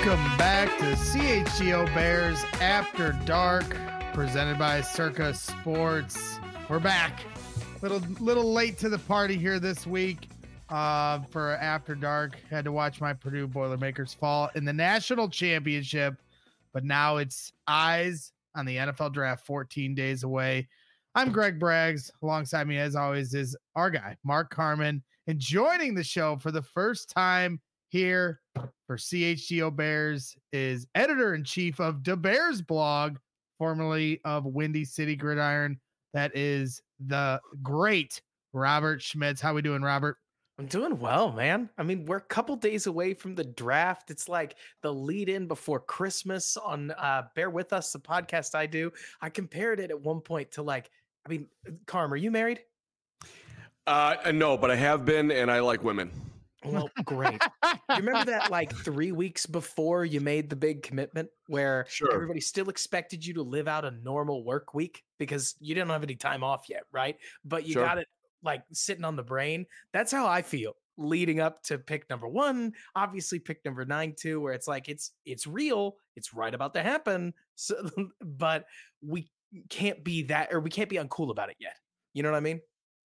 Welcome back to CHGO Bears After Dark, presented by Circa Sports. We're back. Little late to the party here this week for After Dark. Had to watch my Purdue Boilermakers fall in the national championship, but now it's eyes on the NFL draft 14 days away. I'm Greg Braggs. Alongside me, as always, is our guy, Mark Carman, and joining the show for the first time here for CHGO Bears is editor-in-chief of the Bears blog, formerly of Windy City Gridiron. That is the great Robert Schmitz. How we doing, Robert? I'm doing well, man. I mean, we're a couple days away from the draft. It's like the lead in before Christmas on Bear With Us, the podcast I do. I compared it at one point to Carm, are you married? No, but I have been, and I like women. Well, great. You remember that 3 weeks before you made the big commitment where everybody still expected you to live out a normal work week because you didn't have any time off yet, right? But you got it sitting on the brain. That's how I feel leading up to pick number 1, obviously pick number 9 too, where it's like it's real, it's right about to happen. So, but we can't be that, or we can't be uncool about it yet. You know what I mean?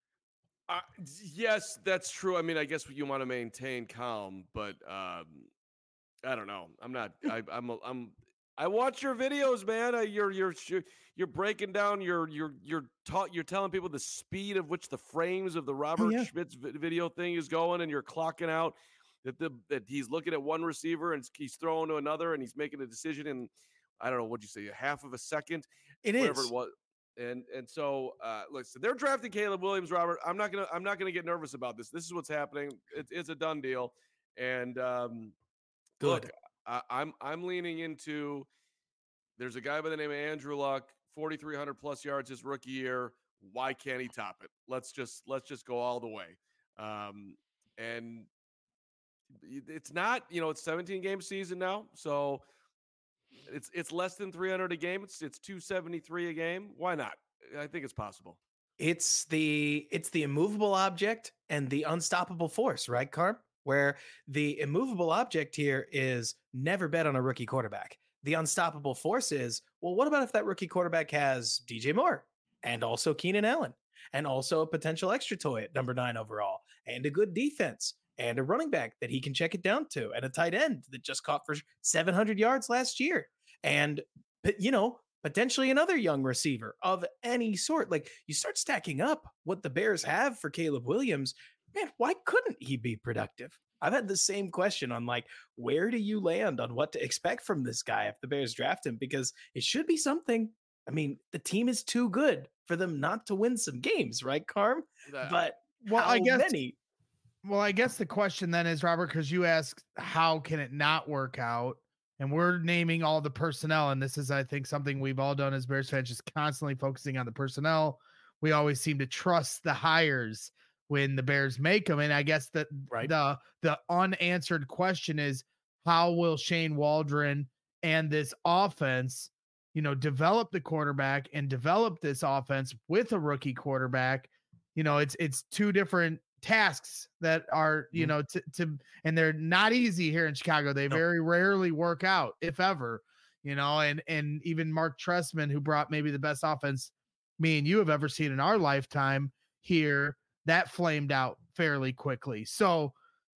Yes, that's true. I mean, I guess you want to maintain calm, but I don't know. I'm not. I watch your videos, man. You're breaking down. You're telling people the speed of which the frames of the Robert Schmitz video thing is going, and you're clocking out that he's looking at one receiver and he's throwing to another, and he's making a decision in, I don't know, what'd you say, a half of a second? Whatever it was. And so listen, they're drafting Caleb Williams, Robert. I'm not gonna get nervous about this. This is what's happening. It's a done deal. And good. Look, I'm leaning into, there's a guy by the name of Andrew Luck, 4,300 plus yards his rookie year. Why can't he top it? Let's just go all the way. And it's not, it's 17 game season now, so it's less than 300 a game. It's 273 a game. Why not? I think it's possible. It's the immovable object and the unstoppable force, right, Carm? Where the immovable object here is never bet on a rookie quarterback. The unstoppable force is, well, what about if that rookie quarterback has DJ Moore and also Keenan Allen and also a potential extra toy at number 9 overall and a good defense and a running back that he can check it down to, and a tight end that just caught for 700 yards last year. And, potentially another young receiver of any sort. Like, you start stacking up what the Bears have for Caleb Williams. Man, why couldn't he be productive? I've had the same question on where do you land on what to expect from this guy if the Bears draft him? Because it should be something. I mean, the team is too good for them not to win some games, right, Carm? But many? Well, I guess the question then is, Robert, because you asked how can it not work out, and we're naming all the personnel, and this is, I think, something we've all done as Bears fans, just constantly focusing on the personnel. We always seem to trust the hires when the Bears make them, and I guess that the unanswered question is, how will Shane Waldron and this offense, develop the quarterback and develop this offense with a rookie quarterback? It's two different tasks that are, and they're not easy here in Chicago. They very rarely work out, if ever, and even Mark Trestman, who brought maybe the best offense me and you have ever seen in our lifetime here, that flamed out fairly quickly. So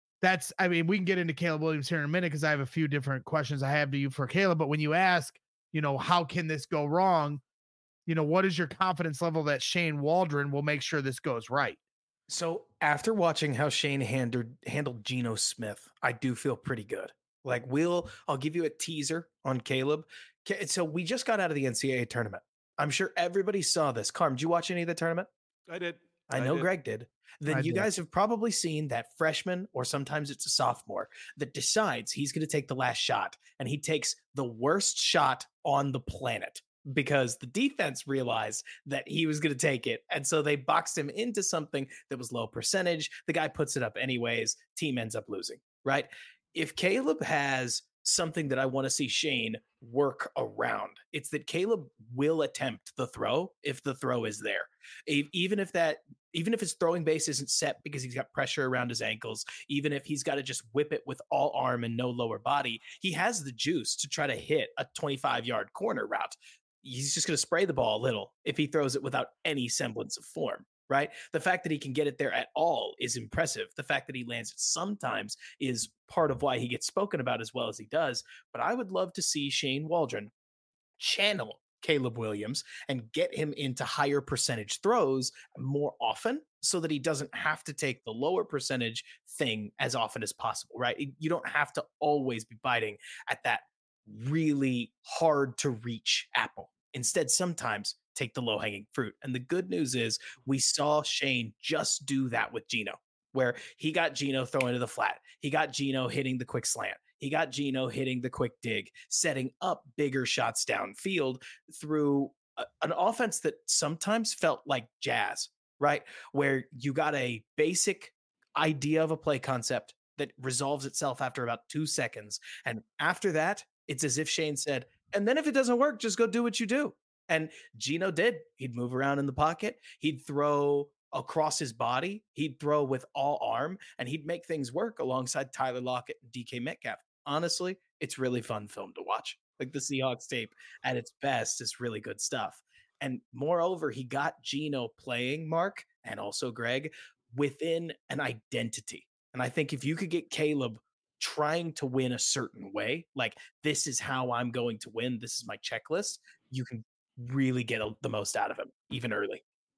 we can get into Caleb Williams here in a minute, because I have a few different questions I have to you for Caleb. But when you ask, how can this go wrong? What is your confidence level that Shane Waldron will make sure this goes right? So after watching how Shane handled Geno Smith, I do feel pretty good. I'll give you a teaser on Caleb. So we just got out of the NCAA tournament. I'm sure everybody saw this. Carm, did you watch any of the tournament? I did. I know Greg did. Then you guys have probably seen that freshman, or sometimes it's a sophomore, that decides he's going to take the last shot, and he takes the worst shot on the planet because the defense realized that he was going to take it. And so they boxed him into something that was low percentage. The guy puts it up anyways. Team ends up losing, right? If Caleb has something that I want to see Shane work around. It's that Caleb will attempt the throw if the throw is there. Even if his throwing base isn't set because he's got pressure around his ankles, even if he's got to just whip it with all arm and no lower body, he has the juice to try to hit a 25-yard corner route. He's just going to spray the ball a little if he throws it without any semblance of form. Right. The fact that he can get it there at all is impressive. The fact that he lands it sometimes is part of why he gets spoken about as well as he does. But I would love to see Shane Waldron channel Caleb Williams and get him into higher percentage throws more often so that he doesn't have to take the lower percentage thing as often as possible. Right. You don't have to always be biting at that really hard to reach apple. Instead, sometimes take the low hanging fruit. And the good news is we saw Shane just do that with Geno, where he got Geno throwing to the flat. He got Geno hitting the quick slant. He got Geno hitting the quick dig, setting up bigger shots downfield through an offense that sometimes felt like jazz, right? Where you got a basic idea of a play concept that resolves itself after about 2 seconds. And after that, it's as if Shane said, and then if it doesn't work, just go do what you do. And Geno did. He'd move around in the pocket. He'd throw across his body. He'd throw with all arm, and he'd make things work alongside Tyler Lockett and DK Metcalf. Honestly, it's really fun film to watch. Like the Seahawks tape at its best is really good stuff. And moreover, he got Geno playing, Mark, and also Greg, within an identity. And I think if you could get Caleb trying to win a certain way, like this is how I'm going to win, this is my checklist, you can really get the most out of him, even early.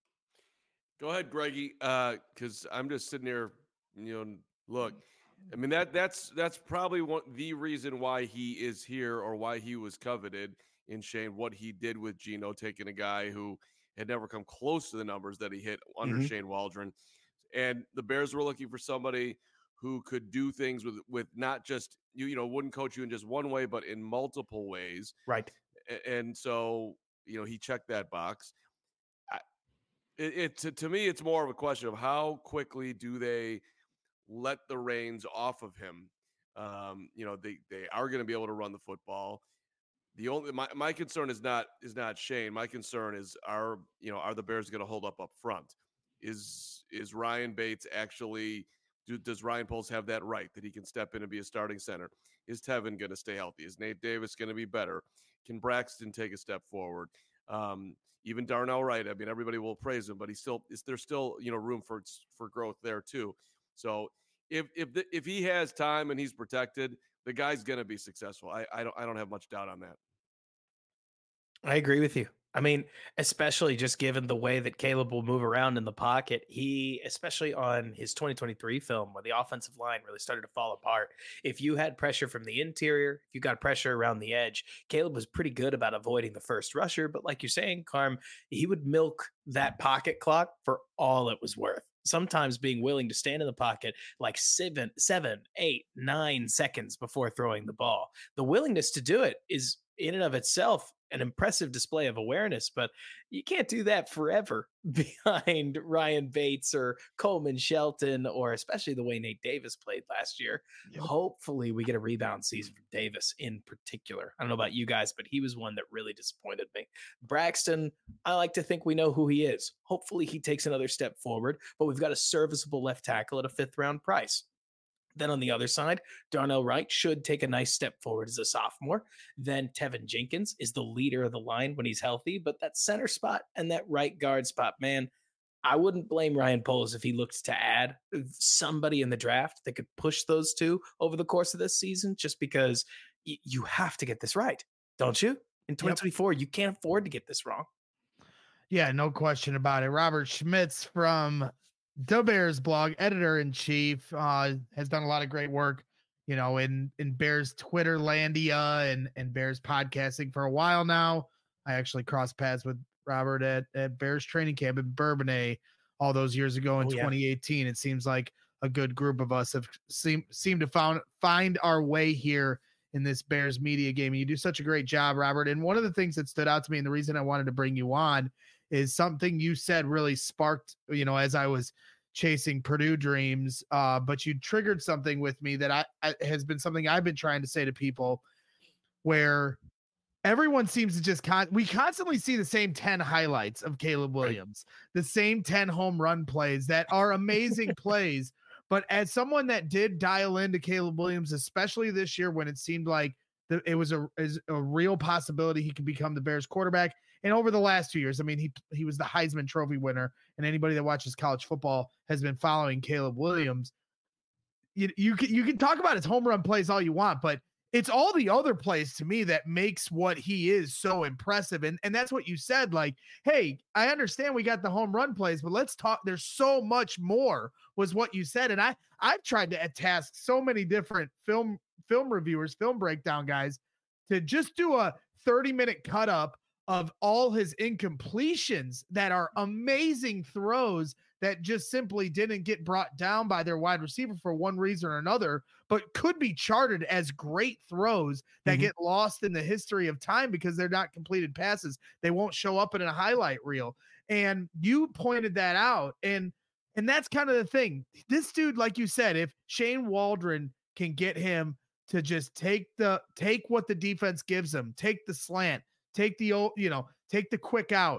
Go ahead, Greggy, because I'm just sitting here, look, I mean, that's probably the reason why he is here or why he was coveted in Shane, what he did with Geno, taking a guy who had never come close to the numbers that he hit under Shane Waldron. And the Bears were looking for somebody who could do things with not just, wouldn't coach you in just one way, but in multiple ways. Right. And so, he checked that box. To me, it's more of a question of how quickly do they let the reins off of him. They are going to be able to run the football. The only my concern is not Shane. My concern is are the Bears going to hold up front? Is Ryan Bates actually? Does Ryan Poles have that right that he can step in and be a starting center? Is Tevin going to stay healthy? Is Nate Davis going to be better? Can Braxton take a step forward? Even Darnell Wright. I mean, everybody will praise him, but there's still room for growth there too. So if he has time and he's protected, the guy's going to be successful. I don't have much doubt on that. I agree with you. I mean, especially just given the way that Caleb will move around in the pocket, especially on his 2023 film where the offensive line really started to fall apart. If you had pressure from the interior, if you got pressure around the edge, Caleb was pretty good about avoiding the first rusher. But like you're saying, Carm, he would milk that pocket clock for all it was worth. Sometimes being willing to stand in the pocket like 7, 8, 9 seconds before throwing the ball. The willingness to do it is in and of itself an impressive display of awareness, but you can't do that forever behind Ryan Bates or Coleman Shelton, or especially the way Nate Davis played last year. Yep. Hopefully we get a rebound season from Davis in particular. I don't know about you guys, but he was one that really disappointed me. Braxton, I like to think we know who he is. Hopefully he takes another step forward, but we've got a serviceable left tackle at a 5th round price. Then on the other side, Darnell Wright should take a nice step forward as a sophomore. Then Tevin Jenkins is the leader of the line when he's healthy, but that center spot and that right guard spot, man, I wouldn't blame Ryan Poles if he looked to add somebody in the draft that could push those two over the course of this season, just because you have to get this right, don't you? In 2024, you can't afford to get this wrong. Yeah, no question about it. Robert Schmitz from the Bears blog, editor-in-chief, has done a lot of great work, in Bears Twitter landia and Bears podcasting for a while now. I actually crossed paths with Robert at Bears training camp in Bourbonnais all those years ago in 2018. It seems like a good group of us have seemed to find our way here in this Bears media game. And you do such a great job, Robert. And one of the things that stood out to me, and the reason I wanted to bring you on, is something you said really sparked, as I was chasing Purdue dreams. But you triggered something with me that I has been something I've been trying to say to people, where everyone seems to just we constantly see the same 10 highlights of Caleb Williams, the same 10 home run plays that are amazing plays. But as someone that did dial into Caleb Williams, especially this year when it seemed like it was a real possibility he could become the Bears quarterback, and over the last 2 years, I mean, he was the Heisman Trophy winner, and anybody that watches college football has been following Caleb Williams. You can talk about his home run plays all you want, but it's all the other plays to me that makes what he is so impressive. And that's what you said. Like, hey, I understand we got the home run plays, but let's talk. There's so much more, was what you said. And I've tried to task so many different film reviewers, film breakdown guys, to just do a 30-minute cut up of all his incompletions that are amazing throws that just simply didn't get brought down by their wide receiver for one reason or another, but could be charted as great throws that get lost in the history of time because they're not completed passes. They won't show up in a highlight reel. And you pointed that out. And that's kind of the thing. This dude, like you said, if Shane Waldron can get him to just take what the defense gives him, take the slant, take the quick out.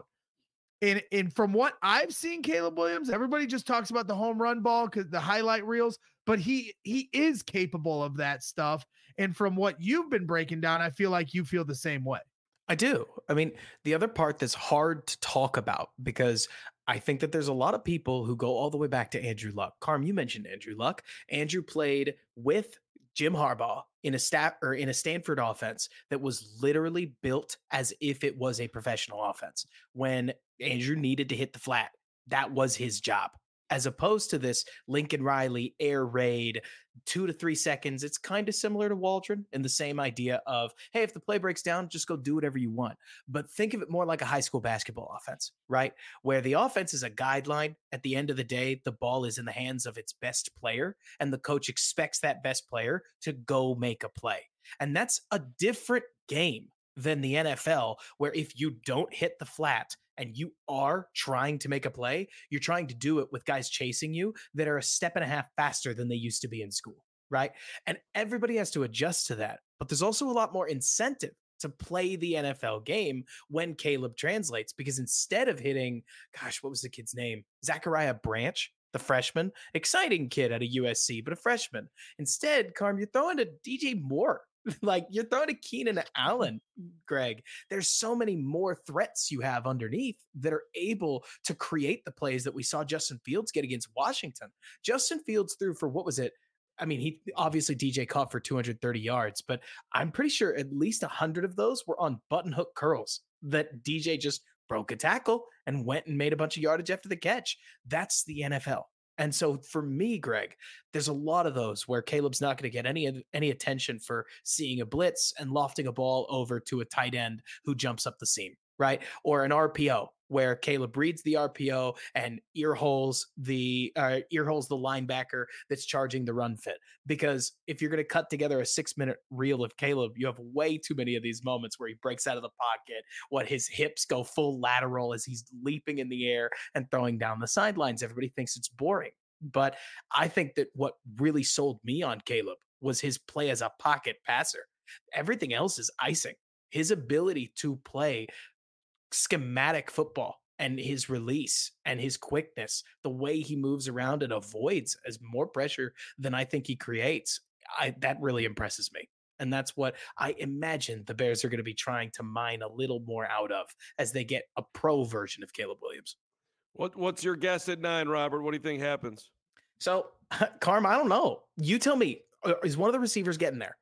And from what I've seen, Caleb Williams, everybody just talks about the home run ball because the highlight reels, but he is capable of that stuff. And from what you've been breaking down, I feel like you feel the same way. I do. I mean, the other part that's hard to talk about, because I think that there's a lot of people who go all the way back to Andrew Luck. Carm, you mentioned Andrew Luck. Andrew played with Jim Harbaugh in a Stanford offense that was literally built as if it was a professional offense. When Andrew needed to hit the flat, that was his job. As opposed to this Lincoln Riley air raid, 2 to 3 seconds. It's kind of similar to Waldron in the same idea of, hey, if the play breaks down, just go do whatever you want. But think of it more like a high school basketball offense, right? Where the offense is a guideline. At the end of the day, the ball is in the hands of its best player, and the coach expects that best player to go make a play. And that's a different game than the NFL, where if you don't hit the flat and you are trying to make a play, you're trying to do it with guys chasing you that are a step and a half faster than they used to be in school, right? And everybody has to adjust to that. But there's also a lot more incentive to play the NFL game when Caleb translates, because instead of hitting, gosh, what was the kid's name? Zachariah Branch, the freshman, exciting kid out of USC, but a freshman. Instead, Carm, you're throwing to DJ Moore. Like, you're throwing to Keenan Allen, Greg. There's so many more threats you have underneath that are able to create the plays that we saw Justin Fields get against Washington. Justin Fields threw for, what was it? I mean, he obviously DJ caught for 230 yards, but I'm pretty sure at least 100 of those were on button hook curls that DJ just broke a tackle and went and made a bunch of yardage after the catch. That's the NFL. And so for me, Greg, there's a lot of those where Caleb's not going to get any attention for seeing a blitz and lofting a ball over to a tight end who jumps up the seam, right? Or an RPO where Caleb reads the RPO and ear holes the linebacker that's charging the run fit. Because if you're going to cut together a 6-minute reel of Caleb, you have way too many of these moments where he breaks out of the pocket, what his hips go full lateral as he's leaping in the air and throwing down the sidelines. Everybody thinks it's boring. But I think that what really sold me on Caleb was his play as a pocket passer. Everything else is icing. His ability to play schematic football and his release and his quickness, the way he moves around and avoids as more pressure than I think he creates, that really impresses me. And that's what I imagine the Bears are going to be trying to mine a little more out of as they get a pro version of Caleb Williams. What's your guess at 9, Robert? What do you think happens? So, Carm, I don't know. You tell me. Is one of the receivers getting there?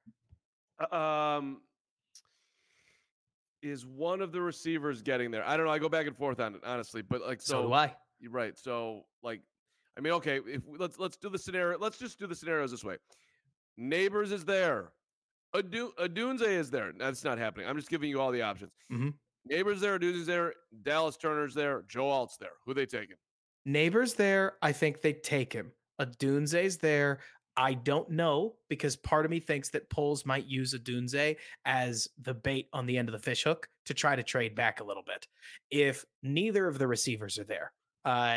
Is one of the receivers getting there? I don't know. I go back and forth on it, honestly. But like, so do I. You're right. So, like, I mean, okay. If let's do the scenario. Let's just do the scenarios this way. Neighbors is there. Odunze is there. That's not happening. I'm just giving you all the options. Mm-hmm. Neighbors there. Odunze's there. Dallas Turner's there. Joe Alt's there. Who they taking? Neighbors there. I think they take him. Odunze's there. I don't know, because part of me thinks that Poles might use Odunze as the bait on the end of the fishhook to try to trade back a little bit. If neither of the receivers are there,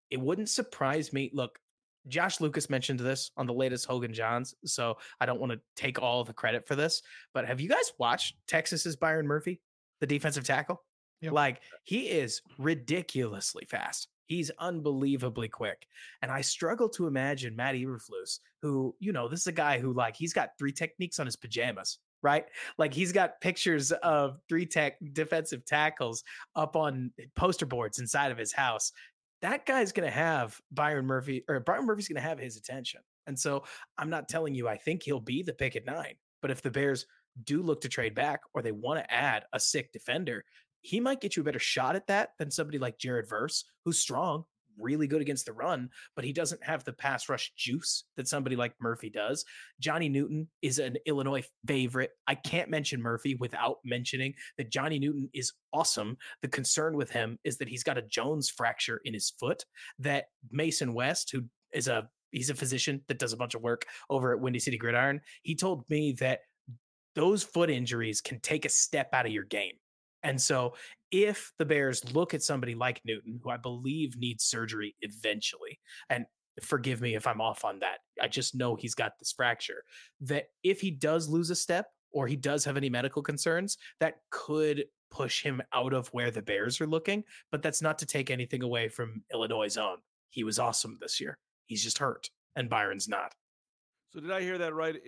it wouldn't surprise me. Look, Josh Lucas mentioned this on the latest Hogan Johns, so I don't want to take all the credit for this. But have you guys watched Texas's Byron Murphy, the defensive tackle? Yep. Like, he is ridiculously fast. He's unbelievably quick. And I struggle to imagine Matt Eberflus, who, this is a guy who, like, he's got 3 techniques on his pajamas, right? Like, he's got pictures of 3 defensive tackles up on poster boards inside of his house. That guy's going to have Byron Murphy's going to have his attention. And so I'm not telling you I think he'll be the pick at 9, but if the Bears do look to trade back or they want to add a sick defender, he might get you a better shot at that than somebody like Jared Verse, who's strong, really good against the run, but he doesn't have the pass rush juice that somebody like Murphy does. Johnny Newton is an Illinois favorite. I can't mention Murphy without mentioning that Johnny Newton is awesome. The concern with him is that he's got a Jones fracture in his foot, that Mason West, who is he's a physician that does a bunch of work over at Windy City Gridiron. He told me that those foot injuries can take a step out of your game. And so if the Bears look at somebody like Newton, who I believe needs surgery eventually, and forgive me if I'm off on that, I just know he's got this fracture, that if he does lose a step or he does have any medical concerns, that could push him out of where the Bears are looking. But that's not to take anything away from Illinois' own. He was awesome this year. He's just hurt, and Byron's not. So did I hear that right?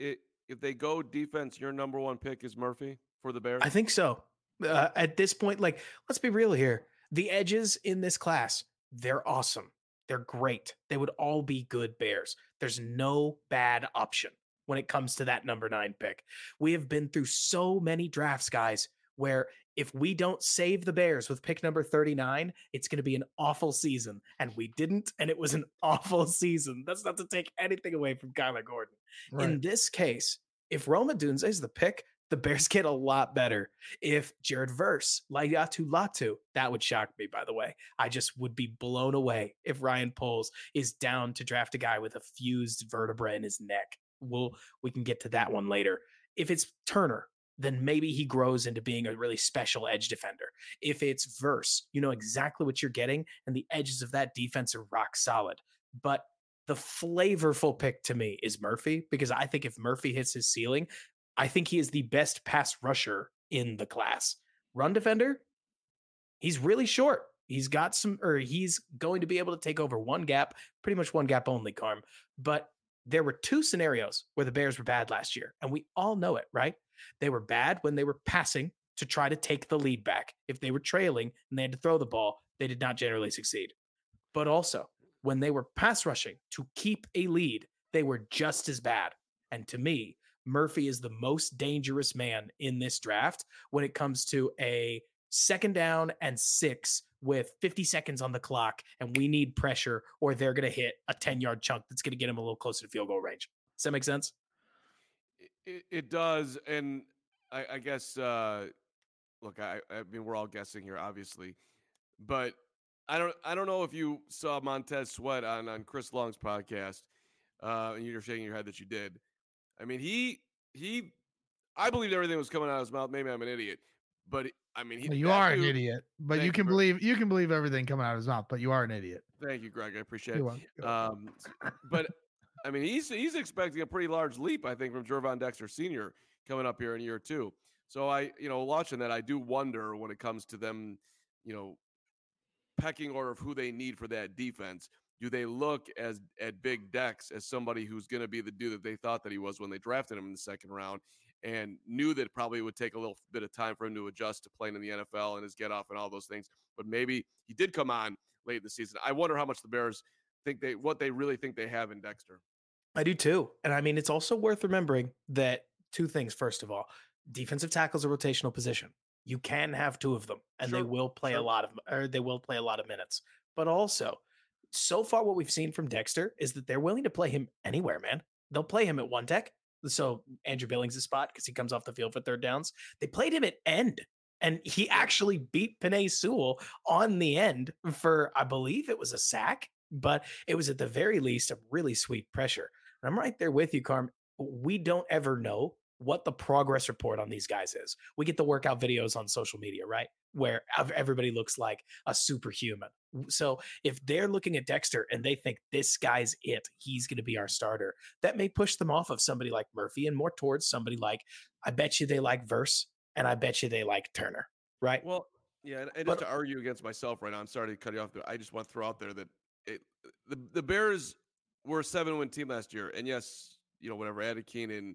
If they go defense, your number 1 pick is Murphy for the Bears? I think so. At this point, like, let's be real here. The edges in this class, they're awesome. They're great. They would all be good Bears. There's no bad option when it comes to that number 9 pick. We have been through so many drafts, guys, where if we don't save the Bears with pick number 39, it's going to be an awful season. And we didn't, and it was an awful season. That's not to take anything away from Kyler Gordon. Right. In this case, if Rome Odunze is the pick, the Bears get a lot better. If Jared Verse, Laiatu Latu, that would shock me, by the way. I just would be blown away if Ryan Poles is down to draft a guy with a fused vertebra in his neck. We can get to that one later. If it's Turner, then maybe he grows into being a really special edge defender. If it's Verse, you know exactly what you're getting, and the edges of that defense are rock solid. But the flavorful pick to me is Murphy, because I think if Murphy hits his ceiling, I think he is the best pass rusher in the class. Run defender, he's really short. He's going to be able to take over one gap, pretty much one gap only, Carm. But there were 2 scenarios where the Bears were bad last year, and we all know it, right? They were bad when they were passing to try to take the lead back. If they were trailing and they had to throw the ball, they did not generally succeed. But also, when they were pass rushing to keep a lead, they were just as bad. And to me, Murphy is the most dangerous man in this draft when it comes to a 2nd down and 6 with 50 seconds on the clock, and we need pressure or they're going to hit a 10-yard chunk that's going to get him a little closer to field goal range. Does that make sense? It does. And I guess, look, I mean, we're all guessing here, obviously, but I don't know if you saw Montez Sweat on Chris Long's podcast, and you're shaking your head that you did. I mean, I believed everything was coming out of his mouth. Maybe I'm an idiot, but I mean, you are an idiot, but you can believe everything coming out of his mouth, but you are an idiot. Thank you, Greg. I appreciate it. But I mean, he's expecting a pretty large leap, I think, from Gervon Dexter Sr. coming up here in year 2. So watching that, I do wonder when it comes to them, pecking order of who they need for that defense. Do they look at Big Dex as somebody who's going to be the dude that they thought that he was when they drafted him in the 2nd round, and knew that probably would take a little bit of time for him to adjust to playing in the NFL and his get off and all those things? But maybe he did come on late in the season. I wonder how much the Bears what they really think they have in Dexter. I do too. And I mean, it's also worth remembering that 2 things. First of all, defensive tackle is a rotational position. You can have 2 of them, and they will play a lot of minutes. But also, so far what we've seen from Dexter is that they're willing to play him anywhere, man. They'll play him at 1 tech. So Andrew Billings' spot, because he comes off the field for 3rd downs. They played him at end, and he actually beat Penei Sewell on the end for, I believe it was a sack, but it was at the very least a really sweet pressure. And I'm right there with you, Carm. We don't ever know what the progress report on these guys is. We get the workout videos on social media, right? Where everybody looks like a superhuman. So if they're looking at Dexter and they think this guy's it, he's going to be our starter, that may push them off of somebody like Murphy and more towards somebody like, I bet you they like Verse and I bet you they like Turner, right? Well, yeah, and just to argue against myself right now, I'm sorry to cut you off, but I just want to throw out there that the Bears were a 7-win team last year, and yes, whatever, added Keenan,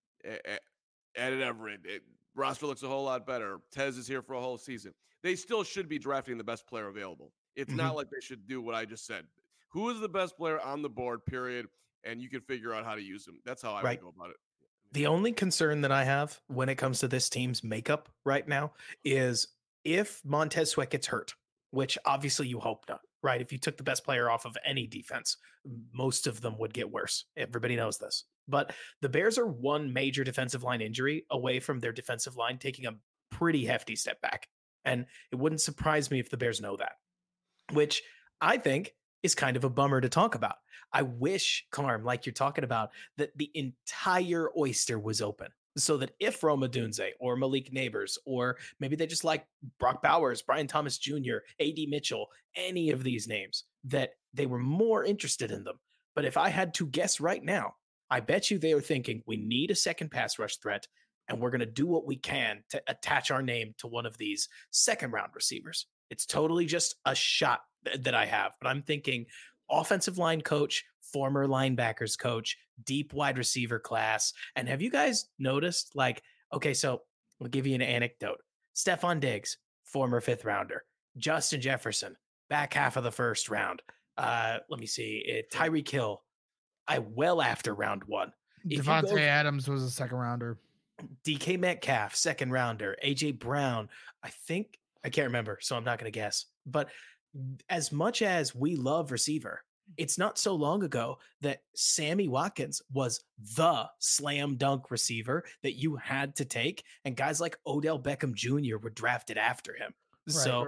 added Everett, roster looks a whole lot better. Tez is here for a whole season. They still should be drafting the best player available. It's not like they should do what I just said. Who is the best player on the board, period, and you can figure out how to use them. That's how I would go about it. The only concern that I have when it comes to this team's makeup right now is if Montez Sweat gets hurt, which obviously you hope not, right? If you took the best player off of any defense, most of them would get worse. Everybody knows this. But the Bears are one major defensive line injury away from their defensive line taking a pretty hefty step back. And it wouldn't surprise me if the Bears know that, which I think is kind of a bummer to talk about. I wish, Carm, like you're talking about, that the entire oyster was open so that if Rome Odunze or Malik Neighbors, or maybe they just like Brock Bowers, Brian Thomas Jr., A.D. Mitchell, any of these names, that they were more interested in them. But if I had to guess right now, I bet you they are thinking we need a second pass rush threat, and we're going to do what we can to attach our name to one of these second-round receivers. It's totally just a shot that I have, but I'm thinking offensive line coach, former linebackers coach, deep wide receiver class. And have you guys noticed, okay, so I'll give you an anecdote. Stephon Diggs, former 5th rounder. Justin Jefferson, back half of the 1st round. Let me see. Tyreek Hill, well after round 1. Devontae Adams was a 2nd rounder. DK Metcalf, 2nd rounder. AJ Brown, I can't remember, so I'm not going to guess. But as much as we love receiver, it's not so long ago that Sammy Watkins was the slam dunk receiver that you had to take, and guys like Odell Beckham Jr. were drafted after him. Right. So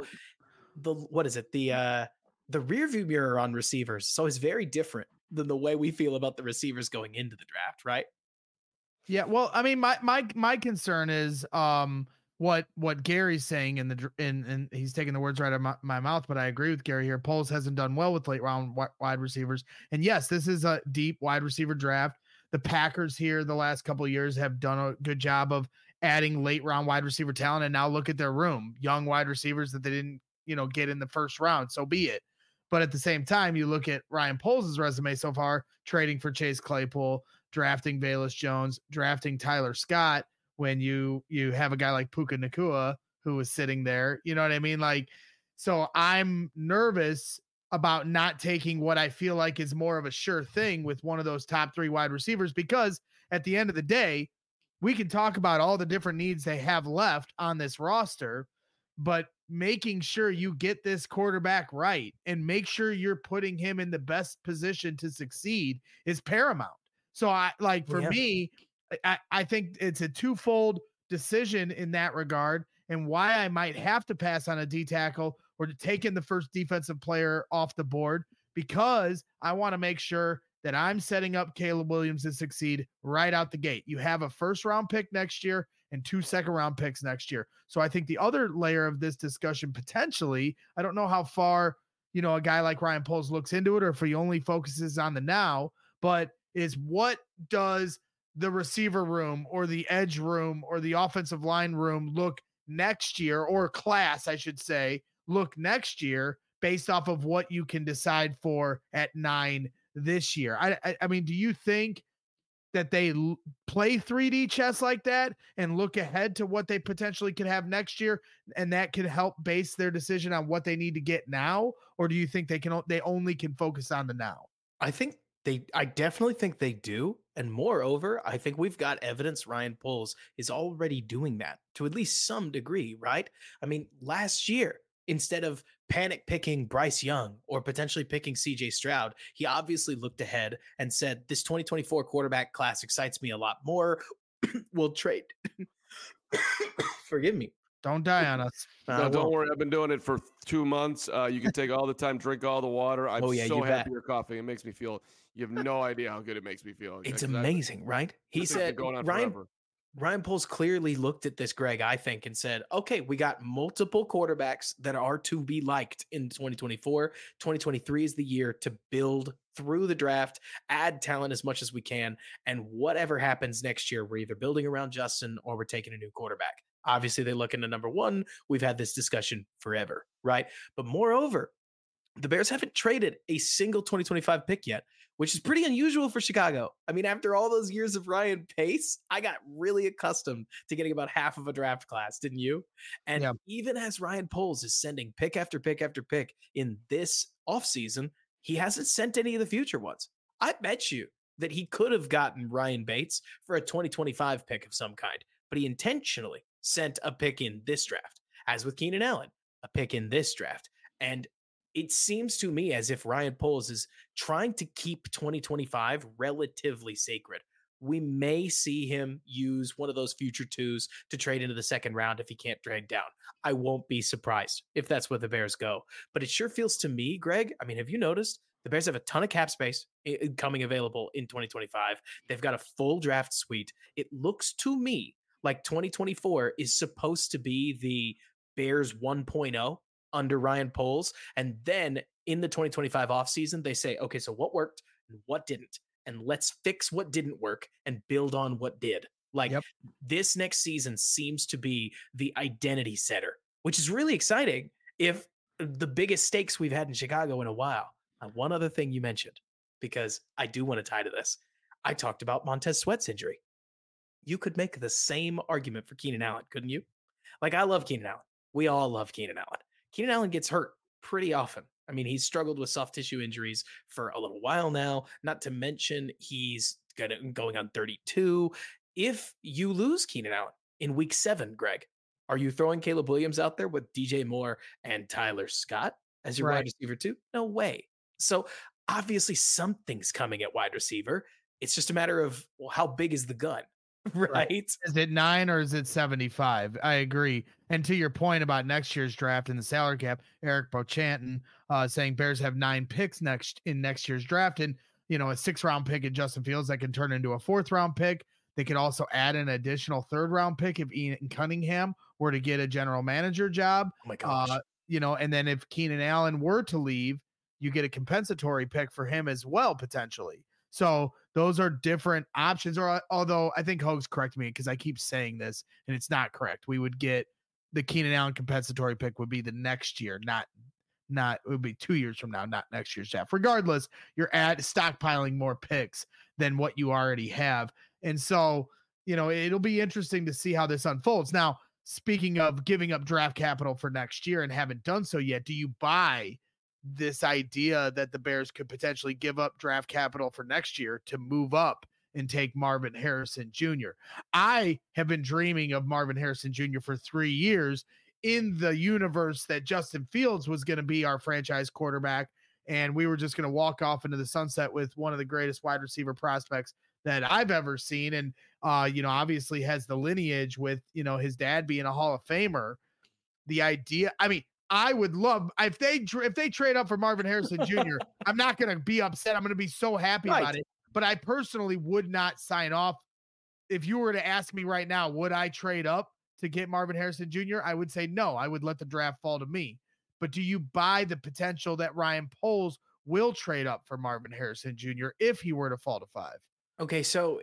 the rearview mirror on receivers is always very different than the way we feel about the receivers going into the draft, right? Yeah, well, I mean, my concern is what Gary's saying and he's taking the words right out of my mouth, but I agree with Gary here. Poles hasn't done well with late round wide receivers, and yes, this is a deep wide receiver draft. The Packers here the last couple of years have done a good job of adding late round wide receiver talent, and now look at their room, young wide receivers that they didn't get in the 1st round. So be it. But at the same time, you look at Ryan Poles' resume so far, trading for Chase Claypool, drafting Velus Jones, drafting Tyler Scott, when you have a guy like Puka Nacua who was sitting there, you know what I mean? So I'm nervous about not taking what I feel like is more of a sure thing with one of those top 3 wide receivers, because at the end of the day, we can talk about all the different needs they have left on this roster, but making sure you get this quarterback right and make sure you're putting him in the best position to succeed is paramount. So me, I think it's a twofold decision in that regard, and why I might have to pass on a D tackle or to take in the first defensive player off the board, because I want to make sure that I'm setting up Caleb Williams to succeed right out the gate. You have a 1st round pick next year and 2 2nd round picks next year. So I think the other layer of this discussion, potentially, I don't know how far, a guy like Ryan Poles looks into it, or if he only focuses on the now, but is what does the receiver room or the edge room or the offensive line room look next year, or class, I should say, look next year based off of what you can decide for at 9 this year. I mean, do you think that they play 3D chess like that and look ahead to what they potentially could have next year, and that could help base their decision on what they need to get now? Or do you think they only can focus on the now? I definitely think they do. And moreover, I think we've got evidence Ryan Poles is already doing that to at least some degree, right? I mean, last year, instead of panic picking Bryce Young or potentially picking CJ Stroud, he obviously looked ahead and said, this 2024 quarterback class excites me a lot more. We'll trade. Forgive me. Don't die on us. No, don't worry. I've been doing it for 2 months. You can take all the time, drink all the water. I'm so happy you're coughing. It makes me feel, you have no idea how good it makes me feel. It's amazing, right? He said, Ryan Poles clearly looked at this, Greg, I think, and said, okay, we got multiple quarterbacks that are to be liked in 2024. 2023 is the year to build through the draft, add talent as much as we can. And whatever happens next year, we're either building around Justin or we're taking a new quarterback. Obviously, they look into number one. We've had this discussion forever, right? But moreover, the Bears haven't traded a single 2025 pick yet, which is pretty unusual for Chicago. I mean, after all those years of Ryan Pace, I got really accustomed to getting about half of a draft class, didn't you? And Yeah. even as Ryan Poles is sending pick after pick after pick in this offseason, he hasn't sent any of the future ones. I bet you that he could have gotten Ryan Bates for a 2025 pick of some kind, but he intentionally sent a pick in this draft, as with Keenan Allen, a pick in this draft. And it seems to me as if Ryan Poles is trying to keep 2025 relatively sacred. We may see him use one of those future twos to trade into the second round if he can't trade down. I won't be surprised if that's where the Bears go. But it sure feels to me, Greg, I mean, have you noticed the Bears have a ton of cap space coming available in 2025? They've got a full draft suite. It looks to me like 2024 is supposed to be the Bears 1.0 under Ryan Poles. And then in the 2025 offseason, they say, okay, so what worked and what didn't? And let's fix what didn't work and build on what did. Like this next season seems to be the identity setter, which is really exciting if the biggest stakes we've had in Chicago in a while. And one other thing you mentioned, because I do want to tie to this. I talked about Montez Sweat's injury. You could make the same argument for Keenan Allen, couldn't you? Like, I love Keenan Allen. We all love Keenan Allen. Keenan Allen gets hurt pretty often. I mean, he's struggled with soft tissue injuries for a little while now, not to mention he's going on 32. If you lose Keenan Allen in week 7, Greg, are you throwing Caleb Williams out there with DJ Moore and Tyler Scott as your wide receiver too? No way. So obviously something's coming at wide receiver. It's just a matter of, well, how big is the gun? Right. Is it 9 or is it 75? I agree. And to your point about next year's draft and the salary cap, Eric Bochanton saying Bears have 9 picks next year's draft, and a 6th-round pick in Justin Fields that can turn into a 4th-round pick. They could also add an additional 3rd-round pick if Ian Cunningham were to get a general manager job. Oh my gosh. And then if Keenan Allen were to leave, you get a compensatory pick for him as well, potentially. So those are different options. Or although I think Hoag's correct me because I keep saying this and it's not correct. We would get the Keenan Allen compensatory pick would be the next year, not it would be 2 years from now, not next year's draft. Regardless, you're stockpiling more picks than what you already have. And so, it'll be interesting to see how this unfolds. Now, speaking of giving up draft capital for next year and haven't done so yet, do you buy this idea that the Bears could potentially give up draft capital for next year to move up and take Marvin Harrison Jr.? I have been dreaming of Marvin Harrison Jr. for 3 years in the universe that Justin Fields was going to be our franchise quarterback. And we were just going to walk off into the sunset with one of the greatest wide receiver prospects that I've ever seen. And, obviously has the lineage with, his dad being a Hall of Famer. The idea, I mean, I would love if they trade up for Marvin Harrison Jr. I'm not going to be upset. I'm going to be so happy about it. But I personally would not sign off. If you were to ask me right now, would I trade up to get Marvin Harrison Jr.? I would say no. I would let the draft fall to me. But do you buy the potential that Ryan Poles will trade up for Marvin Harrison Jr. if he were to fall to 5? Okay, so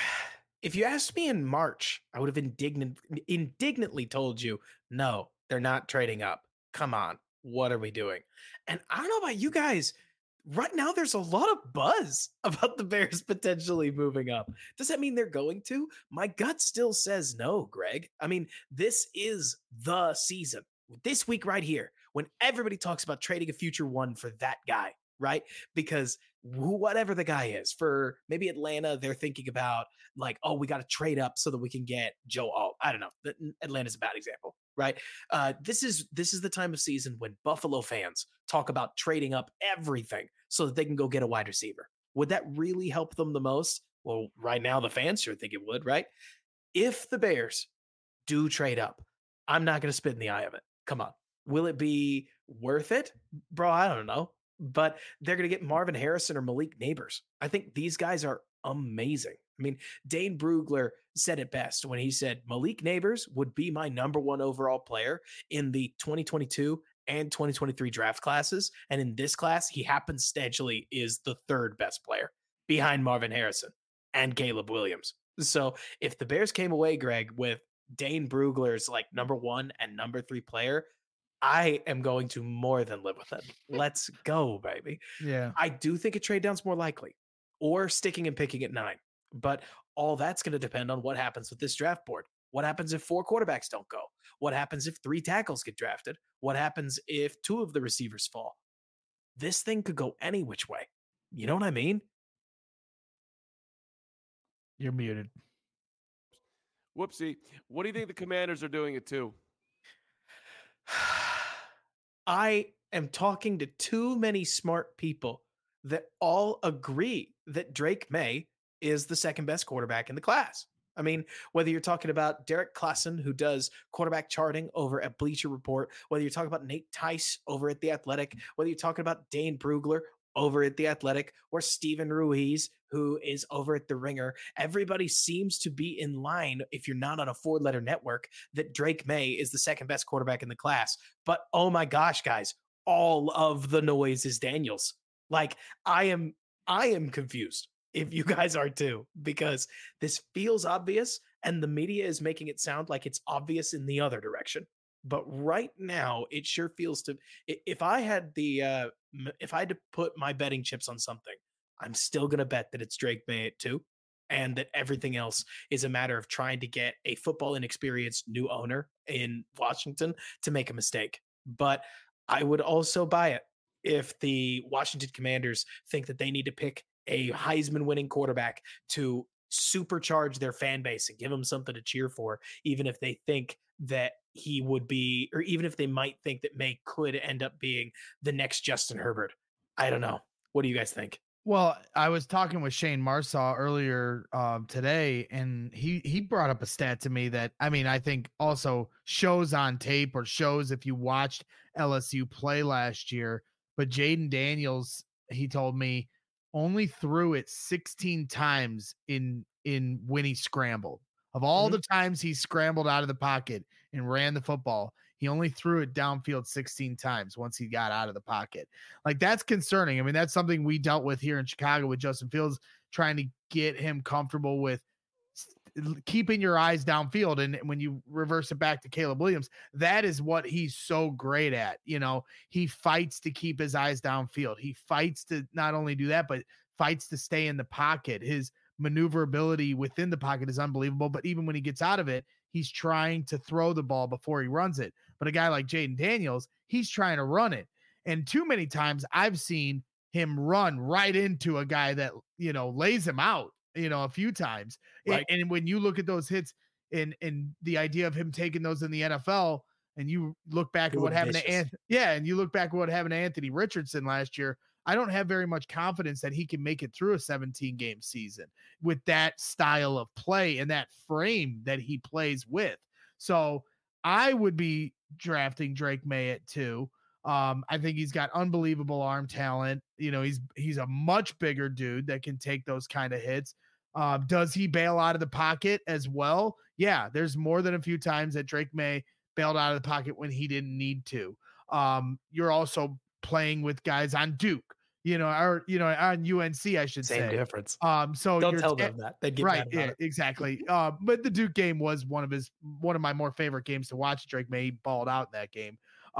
if you asked me in March, I would have indignantly told you, no, they're not trading up. Come on, what are we doing? And I don't know about you guys. Right now, there's a lot of buzz about the Bears potentially moving up. Does that mean they're going to? My gut still says no, Greg. I mean, this is the season. This week right here, when everybody talks about trading a future one for that guy, right? Because whatever the guy is, for maybe Atlanta, they're thinking about like, oh, we got to trade up so that we can get Joe Alt. I don't know. Atlanta's a bad example, right? This is the time of season when Buffalo fans talk about trading up everything so that they can go get a wide receiver. Would that really help them the most? Well, right now the fans sure think it would, right? If the Bears do trade up, I'm not going to spit in the eye of it. Come on. Will it be worth it? Bro, I don't know. But they're going to get Marvin Harrison or Malik Neighbors. I think these guys are amazing. I mean, Dane Brugler said it best when he said Malik Neighbors would be my number 1 overall player in the 2022 and 2023 draft classes. And in this class, he happenstantly is the 3rd best player behind Marvin Harrison and Caleb Williams. So if the Bears came away, Greg, with Dane Brugler's like number 1 and number 3 player, I am going to more than live with it. Let's go, baby. Yeah. I do think a trade down's more likely, or sticking and picking at 9. But all that's going to depend on what happens with this draft board. What happens if 4 quarterbacks don't go? What happens if 3 tackles get drafted? What happens if 2 of the receivers fall? This thing could go any which way. You know what I mean? You're muted. Whoopsie. What do you think the Commanders are doing at 2? I am talking to too many smart people that all agree that Drake May is the 2nd best quarterback in the class. I mean, whether you're talking about Derek Klassen, who does quarterback charting over at Bleacher Report, whether you're talking about Nate Tice over at The Athletic, whether you're talking about Dane Brugler over at The Athletic, or Steven Ruiz, who is over at The Ringer, everybody seems to be in line, if you're not on a 4-letter network, that Drake May is the 2nd best quarterback in the class. But oh my gosh, guys, all of the noise is Daniels. Like, I am confused, if you guys are too, because this feels obvious and the media is making it sound like it's obvious in the other direction. But right now, it sure feels to. If I had to put my betting chips on something, I'm still gonna bet that it's Drake May at 2, and that everything else is a matter of trying to get a football inexperienced new owner in Washington to make a mistake. But I would also buy it if the Washington Commanders think that they need to pick a Heisman winning quarterback to supercharge their fan base and give them something to cheer for, even if they think that he would be, or even if they might think that May could end up being the next Justin Herbert. I don't know. What do you guys think? Well, I was talking with Shane Marsaw earlier today, and he brought up a stat to me that, I mean, I think also shows on tape, or shows if you watched LSU play last year. But Jaden Daniels, he told me, only threw it 16 times in when he scrambled. Of all the times he scrambled out of the pocket and ran the football, he only threw it downfield 16 times once he got out of the pocket. Like, that's concerning. I mean, that's something we dealt with here in Chicago with Justin Fields, trying to get him comfortable with keeping your eyes downfield. And when you reverse it back to Caleb Williams, that is what he's so great at. You know, he fights to keep his eyes downfield. He fights to not only do that, but fights to stay in the pocket. His maneuverability within the pocket is unbelievable, but even when he gets out of it, he's trying to throw the ball before he runs it. But a guy like Jaden Daniels, he's trying to run it. And too many times I've seen him run right into a guy that, you know, lays him out, you know, a few times. Right. And when you look at those hits and the idea of him taking those in the NFL, and you look back at what happened and you look back at what happened to Anthony Richardson last year, I don't have very much confidence that he can make it through a 17-game season with that style of play and that frame that he plays with. So I would be drafting Drake May at 2. I think he's got unbelievable arm talent. You know, he's a much bigger dude that can take those kind of hits. Does he bail out of the pocket as well? Yeah, there's more than a few times that Drake May bailed out of the pocket when he didn't need to. You're also playing with guys on Duke, you know, or, you know, on UNC, I should say. Same difference. So don't tell them that. They'd get right. Mad about Yeah, it. exactly. But the Duke game was one of my more favorite games to watch. Drake May balled out in that game.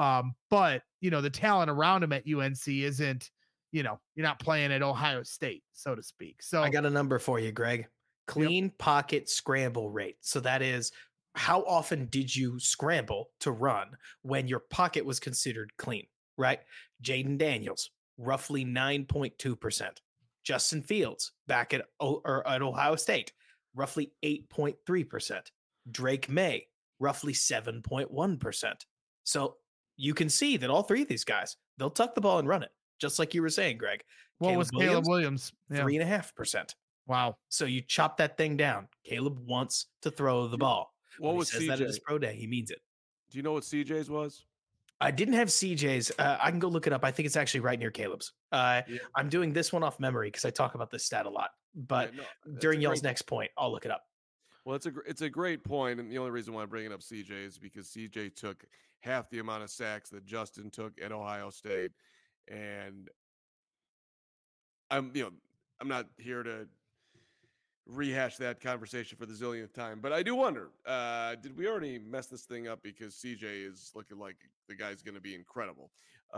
But you know, the talent around him at UNC isn't, you know, you're not playing at Ohio State, so to speak. So I got a number for you, Greg. Clean pocket scramble rate. So that is, how often did you scramble to run when your pocket was considered clean, right? Jaden Daniels, roughly 9.2%. Justin Fields, back at Ohio State, roughly 8.3%. Drake May, roughly 7.1%. So you can see that all 3 of these guys, they'll tuck the ball and run it, just like you were saying, Greg. What was Caleb Williams? 3.5%. Wow. So you chop that thing down. Caleb wants to throw the ball. What was he says CJ? that at his pro day, he means it. Do you know what CJ's was? I didn't have CJ's. I can go look it up. I think it's actually right near Caleb's. I'm doing this one off memory because I talk about this stat a lot. But during y'all's next point, I'll look it up. Well, it's a great point, and the only reason why I'm bringing up CJ is because CJ took half the amount of sacks that Justin took at Ohio State, and I'm not here to rehash that conversation for the zillionth time, but I do wonder, did we already mess this thing up because CJ is looking like the guy's going to be incredible,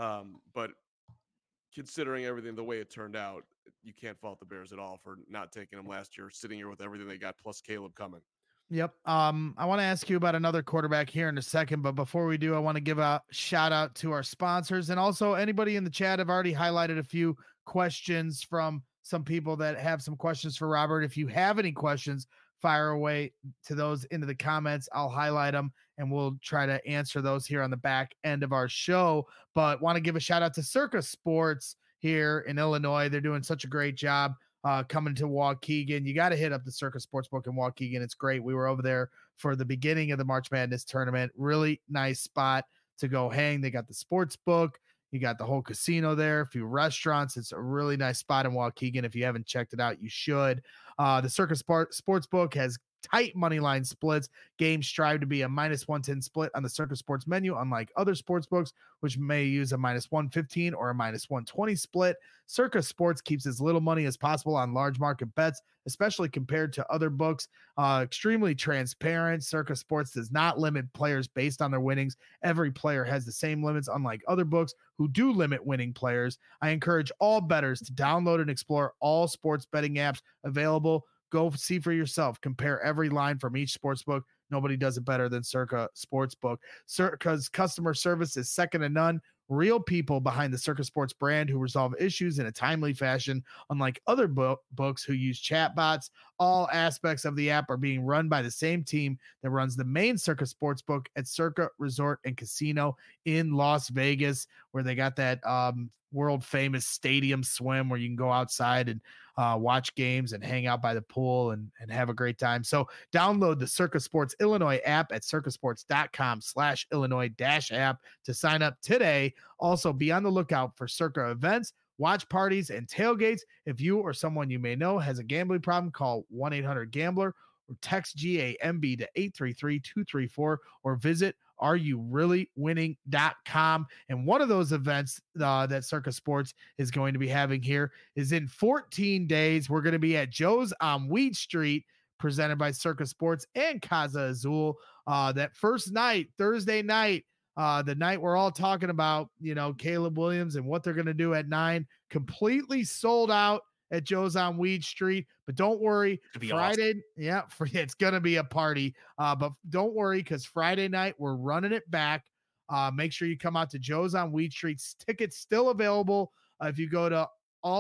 but considering everything the way it turned out, you can't fault the Bears at all for not taking him last year, sitting here with everything they got plus Caleb coming. Yep. I want to ask you about another quarterback here in a second, but before we do, I want to give a shout out to our sponsors, and also anybody in the chat. I've already highlighted a few questions from some people that have some questions for Robert. If you have any questions, fire away to those into the comments. I'll highlight them and we'll try to answer those here on the back end of our show. But want to give a shout out to Circa Sports here in Illinois. They're doing such a great job coming to Waukegan. You got to hit up the Circa Sportsbook in Waukegan. It's great. We were over there for the beginning of the March Madness tournament. Really nice spot to go hang. They got the sports book. You got the whole casino there, a few restaurants. It's a really nice spot in Waukegan. If you haven't checked it out, you should. The Circa Sportsbook has tight money line splits. Games strive to be a -110 split on the Circa Sports menu, unlike other sports books, which may use a -115 or a -120 split. Circa Sports keeps as little money as possible on large market bets, especially compared to other books. Extremely transparent. Circa Sports does not limit players based on their winnings. Every player has the same limits, unlike other books who do limit winning players. I encourage all bettors to download and explore all sports betting apps available. Go see for yourself. Compare every line from each sportsbook. Nobody does it better than Circa Sportsbook. Circa's customer service is second to none. Real people behind the Circa Sports brand who resolve issues in a timely fashion, unlike other books who use chatbots. All aspects of the app are being run by the same team that runs the main Circa Sportsbook at Circa Resort and Casino in Las Vegas, where they got that world famous stadium swim where you can go outside and watch games and hang out by the pool and have a great time. So download the Circa Sports Illinois app at circasports.com/Illinois-app to sign up today. Also be on the lookout for Circa events, watch parties, and tailgates. If you or someone you may know has a gambling problem, call 1-800-GAMBLER or text GAMB to 833-234 or visit areyoureallywinning.com. And one of those events that Circa Sports is going to be having here is in 14 days. We're going to be at Joe's on Weed Street, presented by Circa Sports and Casa Azul. That first night, Thursday night, the night we're all talking about, Caleb Williams and what they're going to do at 9, completely sold out at Joe's on Weed Street. But don't worry, Friday, awesome. It's going to be a party. But don't worry, because Friday night we're running it back. Make sure you come out to Joe's on Weed Street. Tickets still available if you go to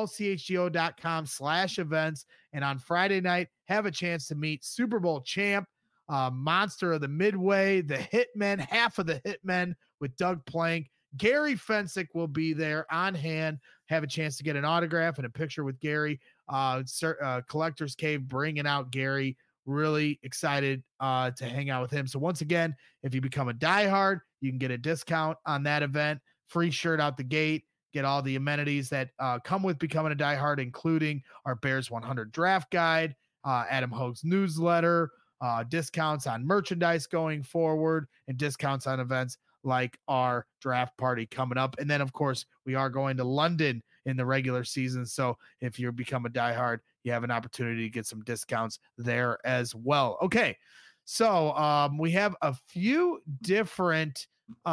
allchgo.com/events. And on Friday night, have a chance to meet Super Bowl champ, monster of the Midway, the Hitmen, half of the Hitmen with Doug Plank. Gary Fensick will be there on hand. Have a chance to get an autograph and a picture with Gary. Collector's Cave bringing out Gary. Really excited to hang out with him. So once again, if you become a diehard, you can get a discount on that event. Free shirt out the gate. Get all the amenities that come with becoming a diehard, including our Bears 100 draft guide, Adam Hogue's newsletter, discounts on merchandise going forward, and discounts on events like our draft party coming up. And then, of course, we are going to London in the regular season. So if you become a diehard, you have an opportunity to get some discounts there as well. Okay. So we have a few different,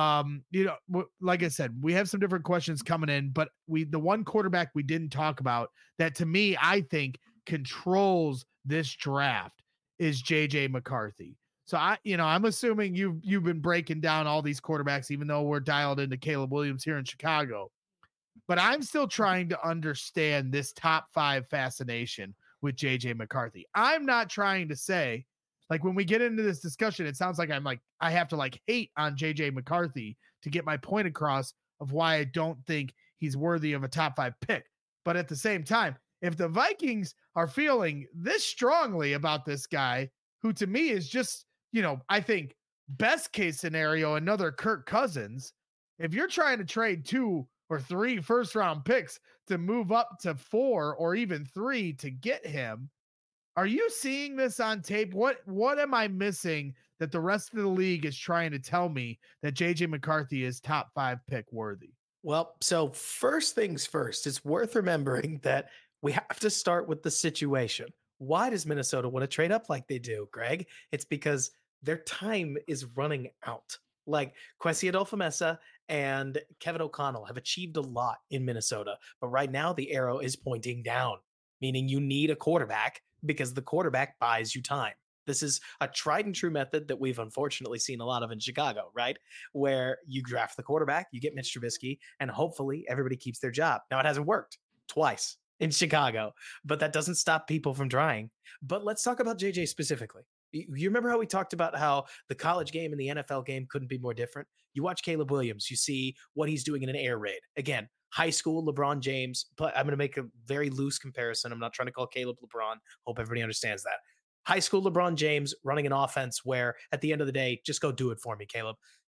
like I said, we have some different questions coming in, but the one quarterback we didn't talk about that to me, I think controls this draft is JJ McCarthy. So I'm assuming you've been breaking down all these quarterbacks, even though we're dialed into Caleb Williams here in Chicago. But I'm still trying to understand this top 5 fascination with JJ McCarthy. I'm not trying to say, like, when we get into this discussion, it sounds like I have to hate on JJ McCarthy to get my point across of why I don't think he's worthy of a top 5 pick. But at the same time, if the Vikings are feeling this strongly about this guy, who to me is just, I think best case scenario, another Kirk Cousins, if you're trying to trade 2 or 3 first round picks to move up to 4 or even 3 to get him, Are you seeing this on tape? What am I missing that the rest of the league is trying to tell me that JJ McCarthy is top 5 pick worthy? Well, so first things first, it's worth remembering that we have to start with the situation. Why does Minnesota want to trade up like they do, Greg? It's because their time is running out. Like Kwesi Adolfo-Mensah and Kevin O'Connell have achieved a lot in Minnesota, but right now the arrow is pointing down, meaning you need a quarterback because the quarterback buys you time. This is a tried and true method that we've unfortunately seen a lot of in Chicago, right? Where you draft the quarterback, you get Mitch Trubisky, and hopefully everybody keeps their job. Now, it hasn't worked twice in Chicago, but that doesn't stop people from trying. But let's talk about JJ specifically. You remember how we talked about how the college game and the NFL game couldn't be more different? You watch Caleb Williams, you see what he's doing in an air raid. Again, high school LeBron James, but I'm going to make a very loose comparison. I'm not trying to call Caleb LeBron. Hope everybody understands that. High school LeBron James running an offense where at the end of the day, just go do it for me, Caleb.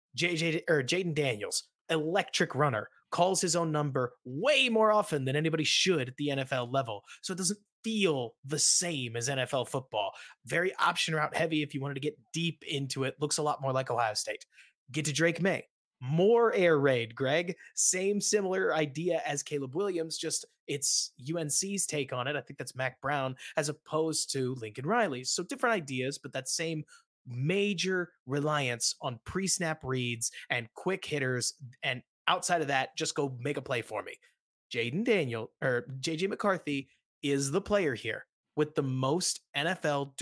Jaden Daniels, electric runner, calls his own number way more often than anybody should at the NFL level. So it doesn't feel the same as NFL football. Very option route heavy if you wanted to get deep into it. Looks a lot more like Ohio State. Get to Drake May. More air raid, Greg. Same similar idea as Caleb Williams, just it's UNC's take on it. I think that's Mac Brown as opposed to Lincoln Riley. So different ideas, but that same major reliance on pre-snap reads and quick hitters. And outside of that, just go make a play for me. Jaden Daniel or JJ McCarthy is the player here with the most NFL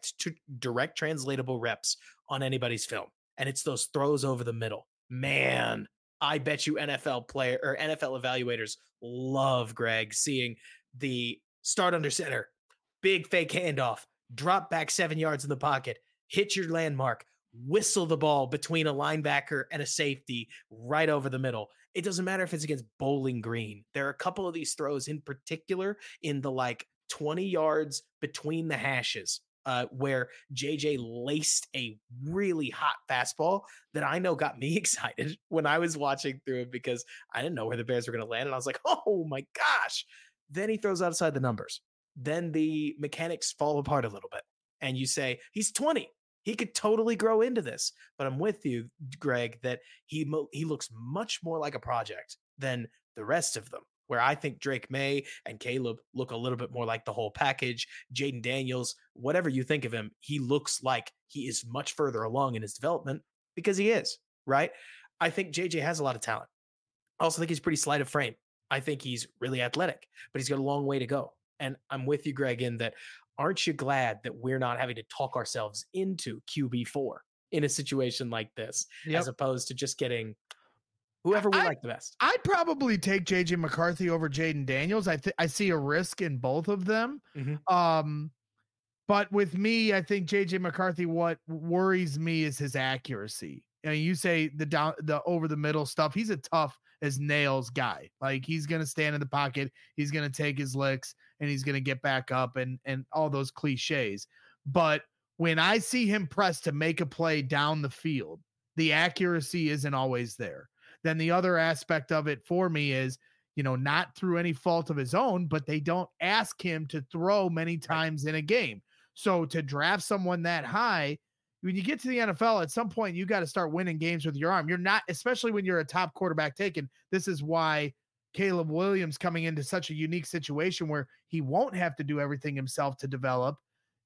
direct translatable reps on anybody's film. And it's those throws over the middle. Man, I bet you NFL evaluators love, Greg, seeing the start under center, big fake handoff, drop back 7 yards in the pocket, hit your landmark, whistle the ball between a linebacker and a safety right over the middle. It doesn't matter if it's against Bowling Green. There are a couple of these throws in particular in the 20 yards between the hashes. Where JJ laced a really hot fastball that I know got me excited when I was watching through it because I didn't know where the Bears were going to land. And I was like, oh my gosh. Then he throws outside the numbers. Then the mechanics fall apart a little bit. And you say, he's 20. He could totally grow into this. But I'm with you, Greg, that he looks much more like a project than the rest of them. Where I think Drake May and Caleb look a little bit more like the whole package. Jaden Daniels, whatever you think of him, he looks like he is much further along in his development because he is, right? I think JJ has a lot of talent. I also think he's pretty slight of frame. I think he's really athletic, but he's got a long way to go. And I'm with you, Greg, in that aren't you glad that we're not having to talk ourselves into QB4 in a situation like this, as opposed to just getting whoever we like the best? I'd probably take JJ McCarthy over Jaden Daniels. I see a risk in both of them. Mm-hmm. But with me, I think JJ McCarthy, what worries me is his accuracy. And you say the over the middle stuff. He's a tough as nails guy. Like he's going to stand in the pocket. He's going to take his licks and he's going to get back up and all those cliches. But when I see him press to make a play down the field, the accuracy isn't always there. Then the other aspect of it for me is, not through any fault of his own, but they don't ask him to throw many times in a game. So to draft someone that high, when you get to the NFL, at some point, you got to start winning games with your arm. You're not, especially when you're a top quarterback taken. This is why Caleb Williams coming into such a unique situation where he won't have to do everything himself to develop.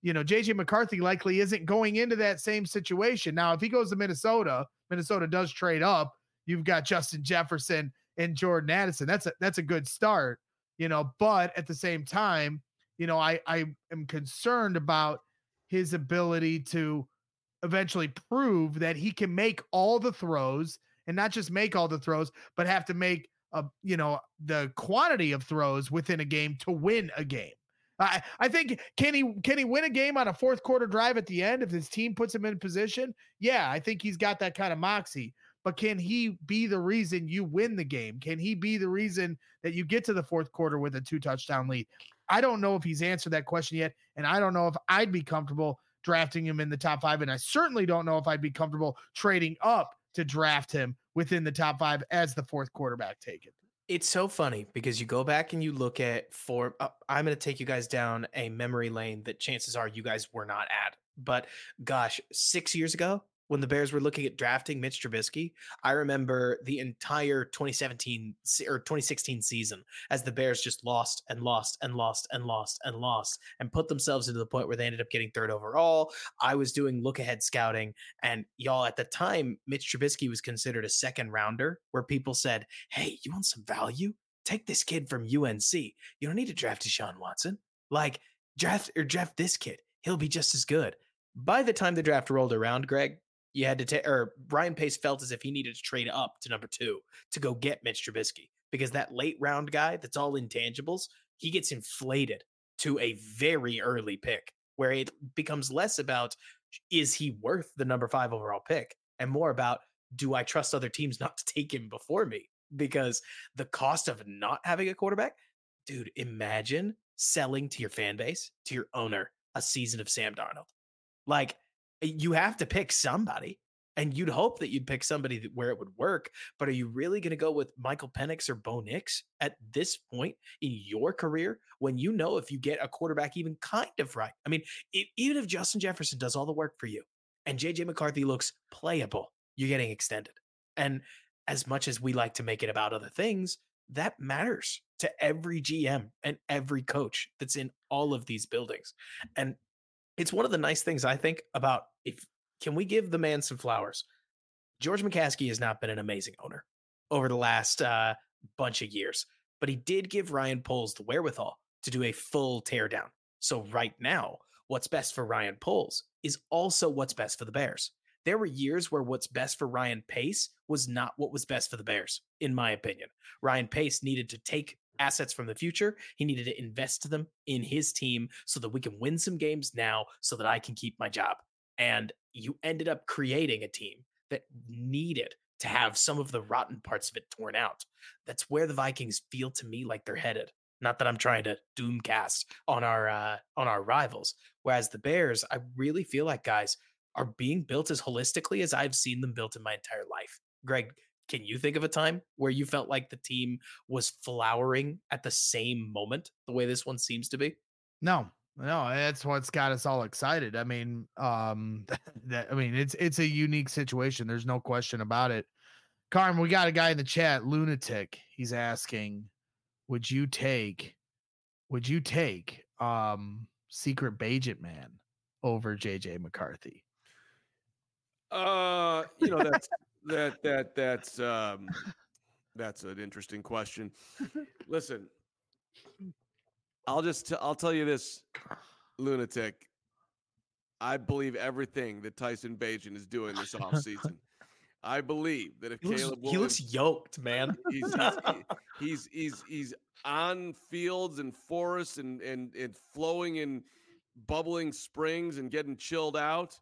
JJ McCarthy likely isn't going into that same situation. Now, if he goes to Minnesota does trade up. You've got Justin Jefferson and Jordan Addison. That's a good start, but at the same time, I am concerned about his ability to eventually prove that he can make all the throws and not just make all the throws, but have to make the quantity of throws within a game to win a game. I think can he win a game on a fourth quarter drive at the end if his team puts him in position? Yeah, I think he's got that kind of moxie. But can he be the reason you win the game? Can he be the reason that you get to the fourth quarter with a 2-touchdown lead? I don't know if he's answered that question yet, and I don't know if I'd be comfortable drafting him in the top 5, and I certainly don't know if I'd be comfortable trading up to draft him within the top 5 as the fourth quarterback taken. It's so funny because you go back and you look at I'm going to take you guys down a memory lane that chances are you guys were not at. But gosh, 6 years ago, when the Bears were looking at drafting Mitch Trubisky, I remember the entire 2016 season as the Bears just lost and lost and lost and lost and lost and put themselves into the point where they ended up getting third overall. I was doing look ahead scouting, and y'all, at the time, Mitch Trubisky was considered a second rounder, where people said, hey, you want some value? Take this kid from UNC. You don't need to draft Deshaun Watson. Like, draft this kid. He'll be just as good. By the time the draft rolled around, Greg, you had to take, or Ryan Pace felt as if he needed to trade up to number 2 to go get Mitch Trubisky, because that late round guy that's all intangibles, he gets inflated to a very early pick, where it becomes less about is he worth the number 5 overall pick and more about, do I trust other teams not to take him before me? Because the cost of not having a quarterback, dude, imagine selling to your fan base, to your owner, a season of Sam Darnold. Like, you have to pick somebody, and you'd hope that you'd pick somebody where it would work. But are you really going to go with Michael Penix or Bo Nix at this point in your career, when you know if you get a quarterback even kind of right? I mean, even if Justin Jefferson does all the work for you and JJ McCarthy looks playable, you're getting extended. And as much as we like to make it about other things, that matters to every GM and every coach that's in all of these buildings. And it's one of the nice things I think about, can we give the man some flowers? George McCaskey has not been an amazing owner over the last bunch of years, but he did give Ryan Poles the wherewithal to do a full teardown. So right now, what's best for Ryan Poles is also what's best for the Bears. There were years where what's best for Ryan Pace was not what was best for the Bears, in my opinion. Ryan Pace needed to take assets from the future. He needed to invest them in his team so that we can win some games now so that I can keep my job. And you ended up creating a team that needed to have some of the rotten parts of it torn out. That's where the Vikings feel to me like they're headed. Not that I'm trying to doomcast on our rivals. Whereas the Bears, I really feel like, guys, are being built as holistically as I've seen them built in my entire life. Greg, can you think of a time where you felt like the team was flowering at the same moment the way this one seems to be? No, that's what's got us all excited. I mean, it's a unique situation. There's no question about it. Carm, we got a guy in the chat, Lunatic. He's asking, would you take Secret Bagent Man over JJ McCarthy? That's an interesting question. Listen, I'll tell you this, Lunatic. I believe everything that Tyson Bagent is doing this offseason. I believe that if Caleb Williams, he looks yoked, man. He's on fields and forests and flowing in bubbling springs and getting chilled out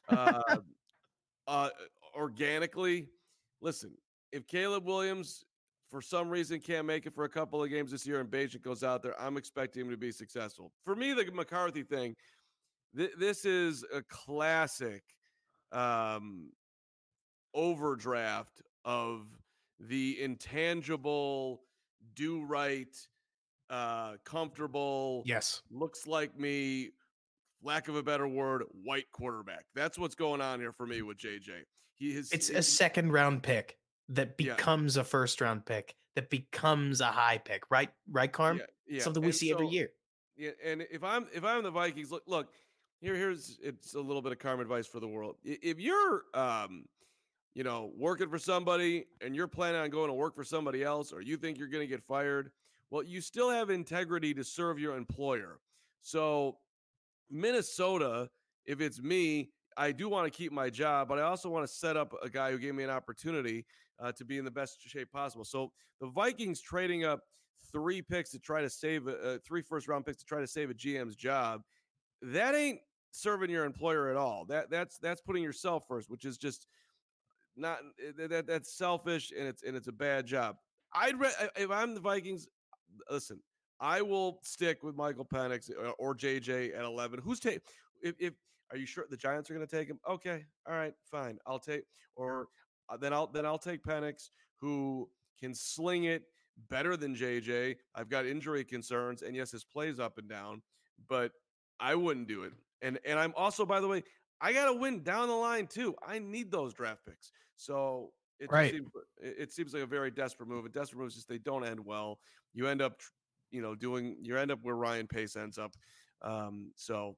organically. Listen, if Caleb Williams for some reason can't make it for a couple of games this year and Bagent goes out there, I'm expecting him to be successful. For me, the McCarthy thing, this is a classic overdraft of the intangible, do right, comfortable, yes, looks like me, lack of a better word, white quarterback. That's what's going on here for me with JJ. It's a second round pick that becomes a first round pick, that becomes a high pick, right? Right, Carm? Yeah. Something we see every year. Yeah, and if I'm the Vikings, look, here's it's a little bit of Carm advice for the world. If you're working for somebody and you're planning on going to work for somebody else, or you think you're going to get fired, well, you still have integrity to serve your employer. So Minnesota, if it's me, I do want to keep my job, but I also want to set up a guy who gave me an opportunity to be in the best shape possible. So the Vikings trading up 3 picks to try to save 3 first-round picks to try to save a GM's job, that ain't serving your employer at all. That's putting yourself first, which is just not that's selfish, and it's a bad job. If I'm the Vikings, listen, I will stick with Michael Penix or JJ at 11. Who's take? If are you sure the Giants are going to take him? Okay, all right, fine. I'll take, or then I'll take Penix, who can sling it, better than JJ. I've got injury concerns, and yes, his plays up and down, but I wouldn't do it. And I'm also, by the way, I got to win down the line too. I need those draft picks. So Right. it seems like a very desperate move. A desperate move is just they don't end well. You end up, you end up where Ryan Pace ends up. So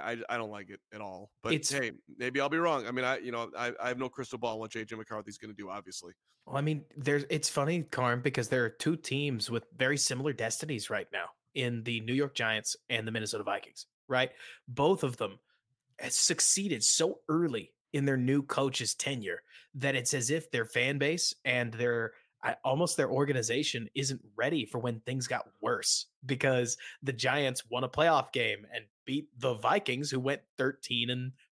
I don't like it at all. But hey, maybe I'll be wrong. I mean, I have no crystal ball on what JJ McCarthy's going to do. Obviously. Well, I mean, it's funny, Carm, because there are two teams with very similar destinies right now in the New York Giants and the Minnesota Vikings, right? Both of them has succeeded so early in their new coach's tenure that it's as if their fan base and almost their organization isn't ready for when things got worse, because the Giants won a playoff game and beat the Vikings, who went 13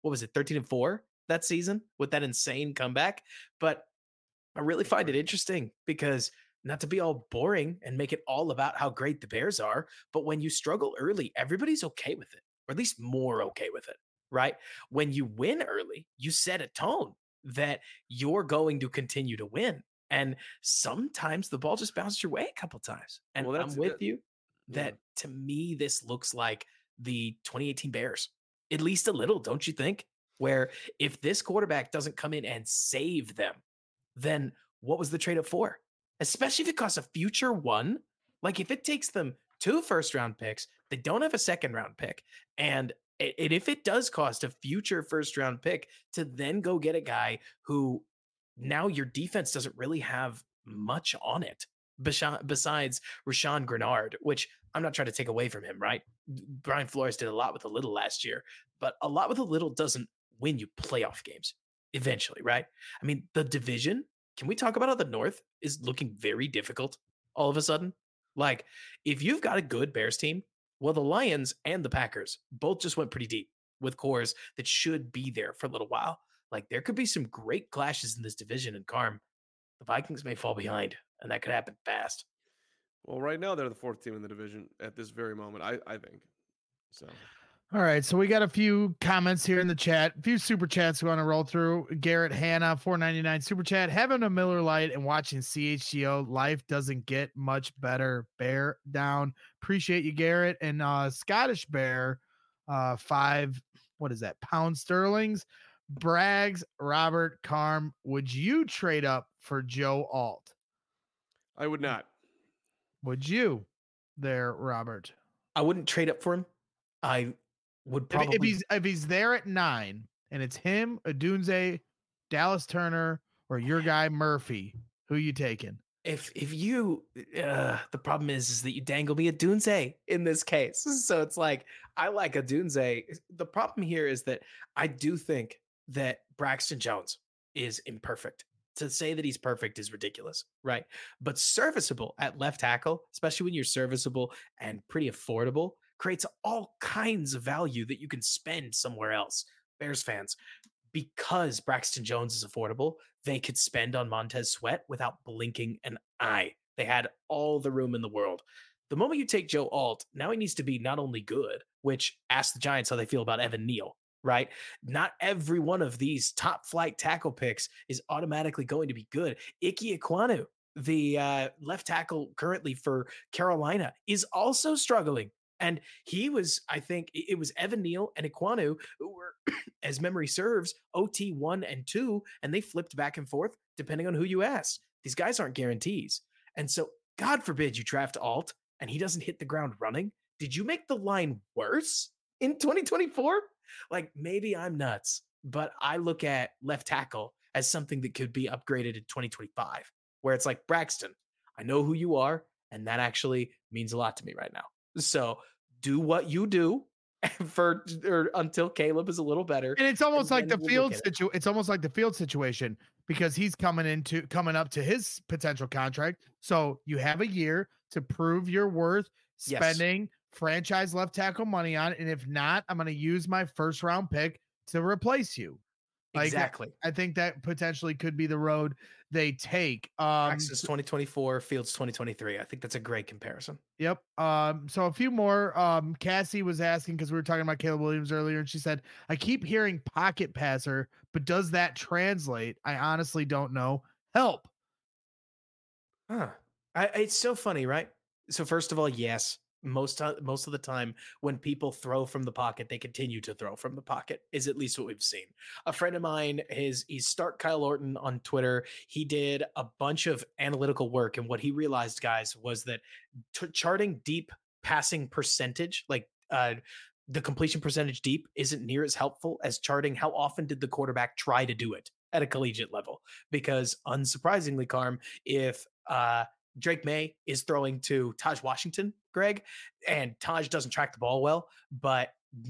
and 4 that season with that insane comeback. But I really find it interesting because, not to be all boring and make it all about how great the Bears are, but when you struggle early, everybody's okay with it, or at least more okay with it, right? When you win early, you set a tone that you're going to continue to win. And sometimes the ball just bounces your way a couple times. And I'm with you that, to me, this looks like the 2018 Bears, at least a little, don't you think? Where if this quarterback doesn't come in and save them, then what was the trade up for? Especially if it costs a future one. Like, if it takes them 2 first-round picks, they don't have a second-round pick. And if it does cost a future first-round pick to then go get a guy who now your defense doesn't really have much on it besides Rashawn Grenard, which I'm not trying to take away from him, right? Brian Flores did a lot with a little last year, but a lot with a little doesn't win you playoff games eventually, right? I mean, the division, can we talk about how the North is looking very difficult all of a sudden? Like, if you've got a good Bears team, well, the Lions and the Packers both just went pretty deep with cores that should be there for a little while. Like, there could be some great clashes in this division, and Carm, the Vikings may fall behind, and that could happen fast. Well, right now they're the 4th team in the division at this very moment, I think. So. All right, so we got a few comments here in the chat, a few super chats we want to roll through. Garrett Hanna, $4.99 super chat. Having a Miller Lite and watching CHGO, life doesn't get much better. Bear down. Appreciate you, Garrett. And Scottish Bear, 5, what is that, pound sterlings. Braggs, Robert, Carm, would you trade up for Joe Alt? I would not. Would you there, Robert? I wouldn't trade up for him. I would probably, if he's there at 9 and it's him, Odunze, Dallas Turner, or your guy Murphy, who you taking? If you, the problem is that you dangle me Odunze in this case. So it's like, I like Odunze. The problem here is that I do think that Braxton Jones is imperfect. To say that he's perfect is ridiculous, right? But serviceable at left tackle, especially when you're serviceable and pretty affordable, creates all kinds of value that you can spend somewhere else. Bears fans, because Braxton Jones is affordable, they could spend on Montez Sweat without blinking an eye. They had all the room in the world. The moment you take Joe Alt, now he needs to be not only good, which ask the Giants how they feel about Evan Neal, right? Not every one of these top flight tackle picks is automatically going to be good. Ike Ekwonu, the left tackle currently for Carolina, is also struggling. And he was, I think it was Evan Neal and Ekwonu who were, as memory serves, OT 1 and 2, and they flipped back and forth depending on who you ask. These guys aren't guarantees. And so, God forbid you draft Alt and he doesn't hit the ground running. Did you make the line worse in 2024? Like, maybe I'm nuts, but I look at left tackle as something that could be upgraded in 2025, where it's like, Braxton, I know who you are, and that actually means a lot to me right now. So do what you do until Caleb is a little better. And it's almost like the field it's almost like the field situation, because he's coming up to his potential contract. So you have a year to prove your worth, spending franchise left tackle money on it. And if not, I'm going to use my first round pick to replace you. Like, exactly. I think that potentially could be the road they take. Texas 2024, Fields 2023. I think that's a great comparison. Yep. So a few more. Cassie was asking, because we were talking about Caleb Williams earlier, and she said, I keep hearing pocket passer, but does that translate? I honestly don't know. Help. Huh. It's so funny, right? So first of all, yes, most of the time when people throw from the pocket, they continue to throw from the pocket. Is at least what we've seen. A friend of mine he's Start Kyle Orton on Twitter. He did a bunch of analytical work, and what he realized, guys, was that charting deep passing percentage, like the completion percentage deep, isn't near as helpful as charting how often did the quarterback try to do it at a collegiate level. Because unsurprisingly, Carm, if Drake May is throwing to Taj Washington, Greg, and Taj doesn't track the ball well, but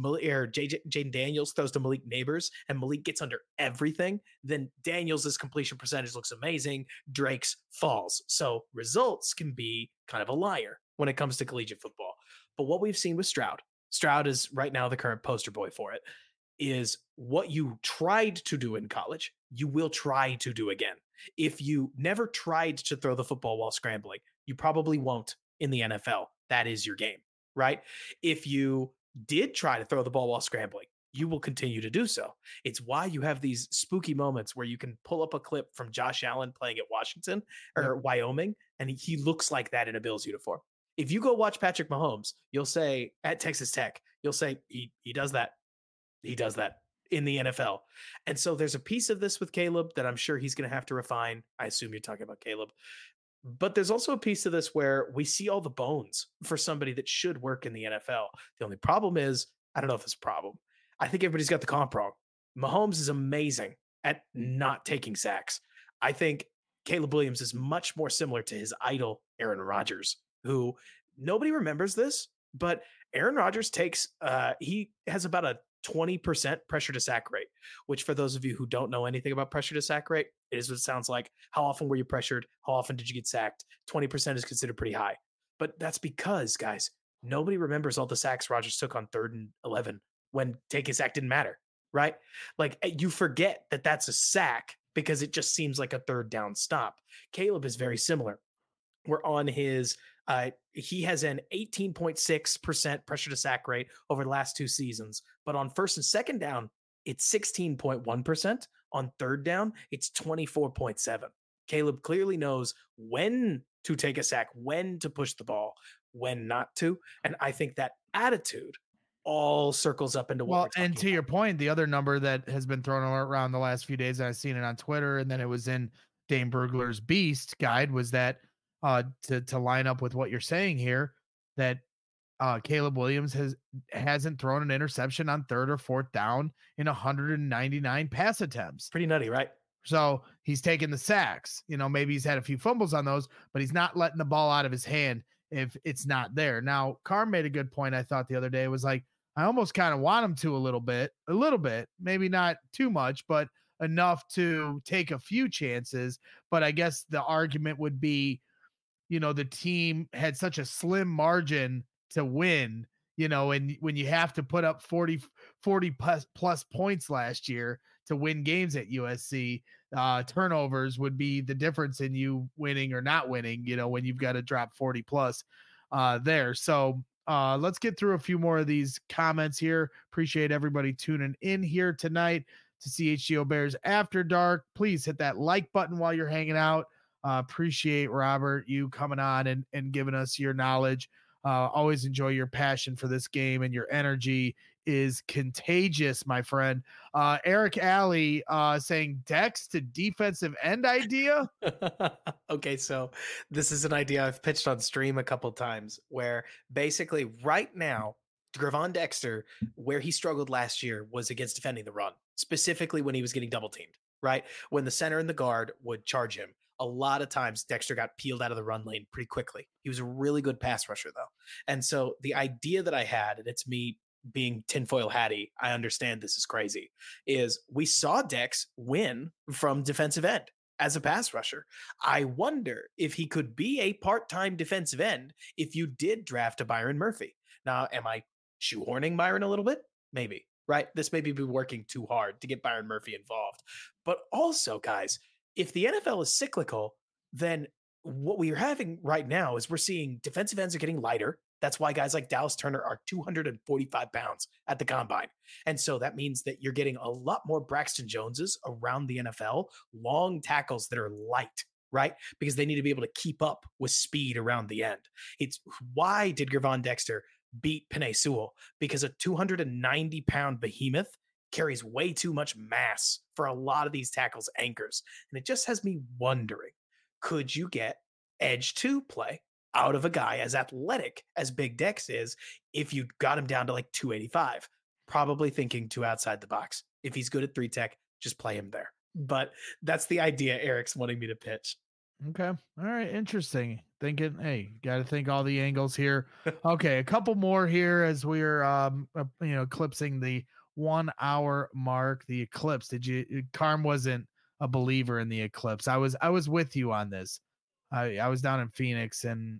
Jaden Daniels throws to Malik Neighbors and Malik gets under everything, then Daniels' completion percentage looks amazing. Drake's falls. So results can be kind of a liar when it comes to collegiate football. But what we've seen with Stroud is right now the current poster boy for it, is what you tried to do in college, you will try to do again. If you never tried to throw the football while scrambling, you probably won't in the NFL. That is your game, right? If you did try to throw the ball while scrambling, you will continue to do so. It's why you have these spooky moments where you can pull up a clip from Josh Allen playing at Washington or Wyoming, and he looks like that in a Bills uniform. If you go watch Patrick Mahomes, you'll say at Texas Tech, you'll say he does that. He does that in the NFL. And so there's a piece of this with Caleb that I'm sure he's going to have to refine. I assume you're talking about Caleb. But there's also a piece of this where we see all the bones for somebody that should work in the NFL. The only problem is, I don't know if it's a problem. I think everybody's got the comp wrong. Mahomes is amazing at not taking sacks. I think Caleb Williams is much more similar to his idol, Aaron Rodgers, who nobody remembers this, but Aaron Rodgers he has about a 20% pressure to sack rate, which for those of you who don't know anything about pressure to sack rate, it is what it sounds like. How often were you pressured? How often did you get sacked? 20% is considered pretty high. But that's because, guys, nobody remembers all the sacks Rodgers took on 3rd and 11 when taking a sack didn't matter, right? Like you forget that that's a sack because it just seems like a 3rd down stop. Caleb is very similar. We're on his he has an 18.6% pressure to sack rate over the last 2 seasons, but on 1st and 2nd down, it's 16.1%. On 3rd down, it's 24.7. Caleb clearly knows when to take a sack, when to push the ball, when not to. And I think that attitude all circles up into what we're talking and to about. your point, the other number that has been thrown around the last few days, and I've seen it on Twitter, and then it was in Dane Brugler's Beast guide, was that to line up with what you're saying here, that Caleb Williams hasn't thrown an interception on 3rd or 4th down in 199 pass attempts. Pretty nutty, right? So he's taking the sacks. Maybe he's had a few fumbles on those, but he's not letting the ball out of his hand if it's not there. Now, Carm made a good point, I thought, the other day. It was like, I almost kind of want him to a little bit, maybe not too much, but enough to take a few chances. But I guess the argument would be, the team had such a slim margin to win, and when you have to put up 40 plus points last year to win games at USC, turnovers would be the difference in you winning or not winning, when you've got to drop 40 plus there. So let's get through a few more of these comments here. Appreciate everybody tuning in here tonight to CHGO Bears After Dark. Please hit that like button while you're hanging out. Appreciate, Robert, you coming on and giving us your knowledge. Always enjoy your passion for this game, and your energy is contagious, my friend. Eric Alley saying Dex to defensive end idea. Okay, so this is an idea I've pitched on stream a couple times, where basically right now, Gravon Dexter, where he struggled last year was against defending the run, specifically when he was getting double teamed, right? When the center and the guard would charge him. A lot of times Dexter got peeled out of the run lane pretty quickly. He was a really good pass rusher, though. And so the idea that I had, and it's me being tinfoil hatty, I understand this is crazy, is we saw Dex win from defensive end as a pass rusher. I wonder if he could be a part-time defensive end if you did draft a Byron Murphy. Now, am I shoehorning Byron a little bit? Maybe, right? This may be working too hard to get Byron Murphy involved. But also, guys, if the NFL is cyclical, then what we are having right now is we're seeing defensive ends are getting lighter. That's why guys like Dallas Turner are 245 pounds at the combine. And so that means that you're getting a lot more Braxton Joneses around the NFL, long tackles that are light, right? Because they need to be able to keep up with speed around the end. It's why did Gervon Dexter beat Penei Sewell? Because a 290-pound behemoth carries way too much mass for a lot of these tackles' anchors. And it just has me wondering, could you get edge 2 play out of a guy as athletic as Big Dex is if you got him down to like 285? Probably thinking too outside the box. If he's good at 3 tech, just play him there. But that's the idea Eric's wanting me to pitch. Okay. All right. Interesting. Thinking, hey, got to think all the angles here. Okay. A couple more here as we're, eclipsing the 1 hour mark. The eclipse. Carm wasn't a believer in the eclipse. I was with you on this. I was down in Phoenix and,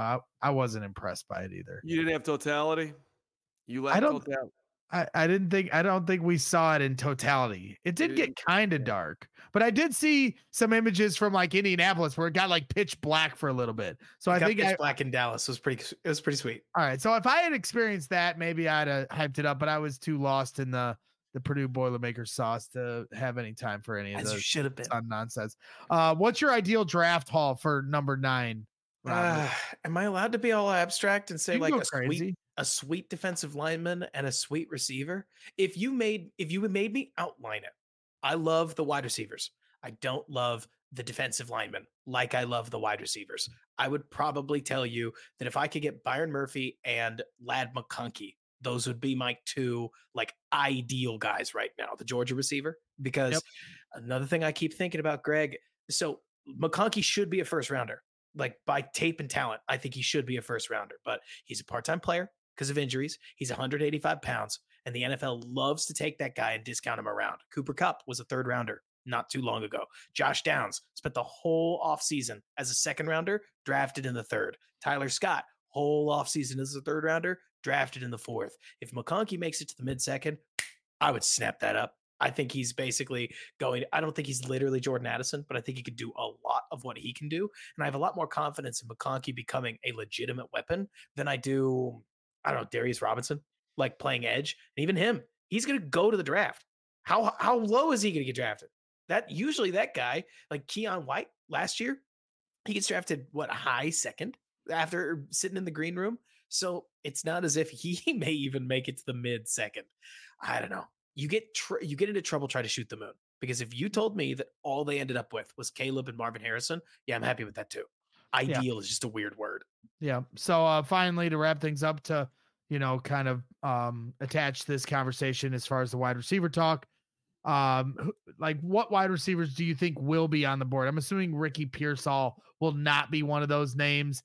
I wasn't impressed by it either. You didn't have totality? You lacked totality? I don't think we saw it in totality. It did get kind of dark, but I did see some images from like Indianapolis where it got like pitch black for a little bit. So I think pitch black in Dallas was pretty sweet. All right. So if I had experienced that, maybe I'd have hyped it up, but I was too lost in the Purdue Boilermaker sauce to have any time for any of those. You should have been nonsense. What's your ideal draft haul for number 9? Am I allowed to be all abstract and say like a sweet defensive lineman and a sweet receiver? If you made me outline it, I love the wide receivers. I don't love the defensive linemen like I love the wide receivers. I would probably tell you that if I could get Byron Murphy and Ladd McConkey, those would be my 2 like ideal guys right now, the Georgia receiver. Because another thing I keep thinking about, Greg, so McConkey should be a first rounder. Like by tape and talent, I think he should be a first rounder, but he's a part-time player because of injuries. He's 185 pounds, and the NFL loves to take that guy and discount him around. Cooper Kupp was a 3rd rounder not too long ago. Josh Downs spent the whole offseason as a 2nd rounder, drafted in the 3rd. Tyler Scott, whole offseason as a 3rd rounder, drafted in the 4th. If McConkey makes it to the mid-2nd, I would snap that up. I think he's basically I don't think he's literally Jordan Addison, but I think he could do a lot of what he can do. And I have a lot more confidence in McConkey becoming a legitimate weapon than I do, Darius Robinson, like playing edge. And even him, he's going to go to the draft. How low is he going to get drafted? That guy, like Keon White last year, he gets drafted, high 2nd after sitting in the green room. So it's not as if he may even make it to the mid 2nd. I don't know. You get into trouble trying to shoot the moon, because if you told me that all they ended up with was Caleb and Marvin Harrison, I'm happy with that too. Ideal is just a weird word. Yeah. So finally, to wrap things up, to kind of attach this conversation as far as the wide receiver talk, like what wide receivers do you think will be on the board? I'm assuming Ricky Pearsall will not be one of those names.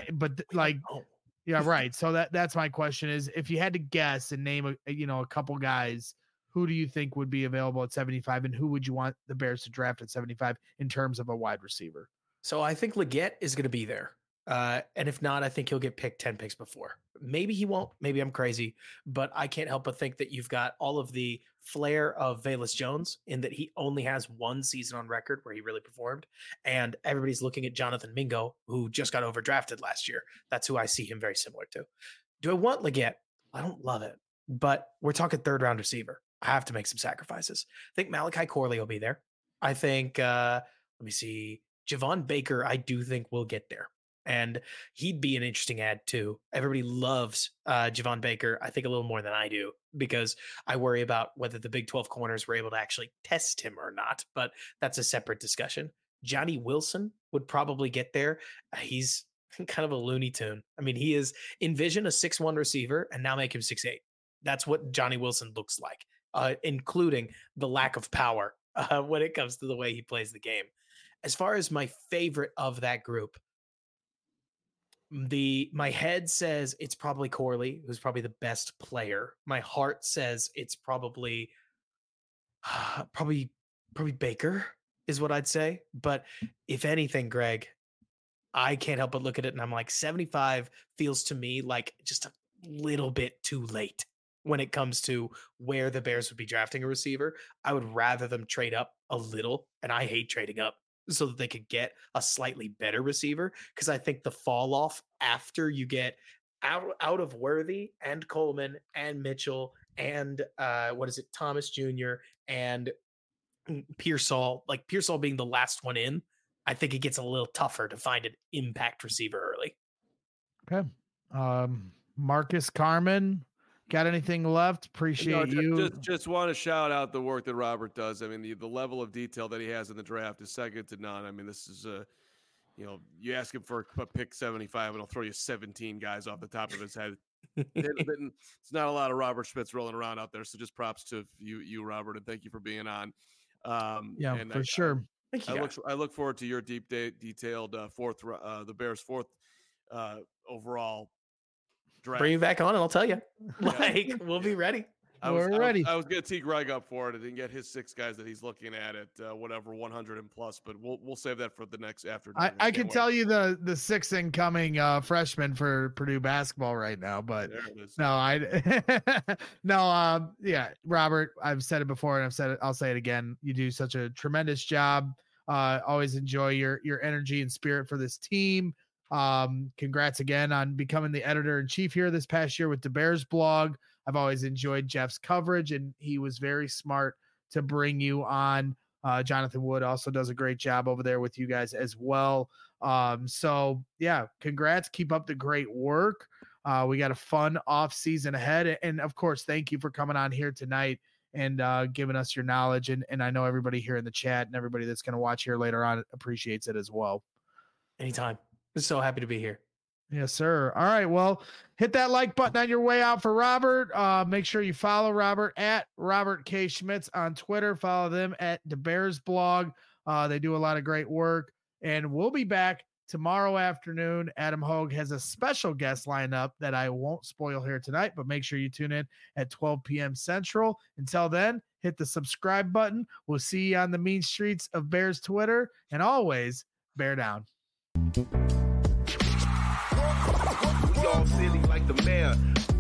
Yeah, right. So that's my question is, if you had to guess and name a couple guys, who do you think would be available at 75, and who would you want the Bears to draft at 75 in terms of a wide receiver? So I think Leggett is going to be there. And if not, I think he'll get picked 10 picks before. Maybe he won't. Maybe I'm crazy, but I can't help but think that you've got all of the flair of Velus Jones in that he only has 1 season on record where he really performed. And everybody's looking at Jonathan Mingo, who just got overdrafted last year. That's who I see him very similar to. Do I want Leggett? I don't love it, but we're talking 3rd round receiver. I have to make some sacrifices. I think Malachi Corley will be there. I think, let me see, Javon Baker, I do think will get there. And he'd be an interesting ad too. Everybody loves Javon Baker, I think a little more than I do, because I worry about whether the Big 12 corners were able to actually test him or not. But that's a separate discussion. Johnny Wilson would probably get there. He's kind of a Looney Tune. I mean, he is envision a 6'1" receiver and now make him 6'8". That's what Johnny Wilson looks like, including the lack of power when it comes to the way he plays the game. As far as my favorite of that group, my head says it's probably Corley, who's probably the best player. My heart says it's probably Baker is what I'd say. But if anything, Greg, I can't help but look at it and I'm like, 75 feels to me like just a little bit too late when it comes to where the Bears would be drafting a receiver. I would rather them trade up a little, and I hate trading up, so that they could get a slightly better receiver. Because I think the fall off after you get out of Worthy and Coleman and Mitchell and Thomas Jr. and Pearsall, like Pearsall being the last one in, I think it gets a little tougher to find an impact receiver early. Okay. Marcus Carmen, got anything left? Appreciate you. Just want to shout out the work that Robert does. I mean, the level of detail that he has in the draft is second to none. I mean, this is you ask him for a pick 75 and he'll throw you 17 guys off the top of his head. It's not a lot of Robert Schmitz rolling around out there. So just props to you, Robert, and thank you for being on. Sure. I look forward to your detailed the Bears' fourth overall draft. Bring me back on and I'll tell you. We'll be ready. We're ready. I was going to tee Greg up for it. I didn't get his 6 guys that he's looking at whatever 100 and plus, but we'll save that for the next afternoon. I can tell you the 6 incoming freshmen for Purdue basketball right now, but Robert, I've said it before and I'll say it again. You do such a tremendous job. Always enjoy your energy and spirit for this team. Congrats again on becoming the editor-in-chief here this past year with the Bears blog. I've always enjoyed Jeff's coverage, and he was very smart to bring you on. Jonathan Wood also does a great job over there with you guys as well. So yeah, congrats. Keep up the great work. We got a fun off season ahead. And of course, thank you for coming on here tonight and giving us your knowledge. And I know everybody here in the chat and everybody that's going to watch here later on appreciates it as well. Anytime. I'm so happy to be here. Yes, sir. All right. Well, hit that like button on your way out for Robert. Make sure you follow Robert at Robert K. Schmitz on Twitter. Follow them at the Bears blog. They do a lot of great work. And we'll be back tomorrow afternoon. Adam Hogue has a special guest lineup that I won't spoil here tonight, but make sure you tune in at 12 p.m. Central. Until then, hit the subscribe button. We'll see you on the mean streets of Bears Twitter. And always, bear down. All silly like the mayor.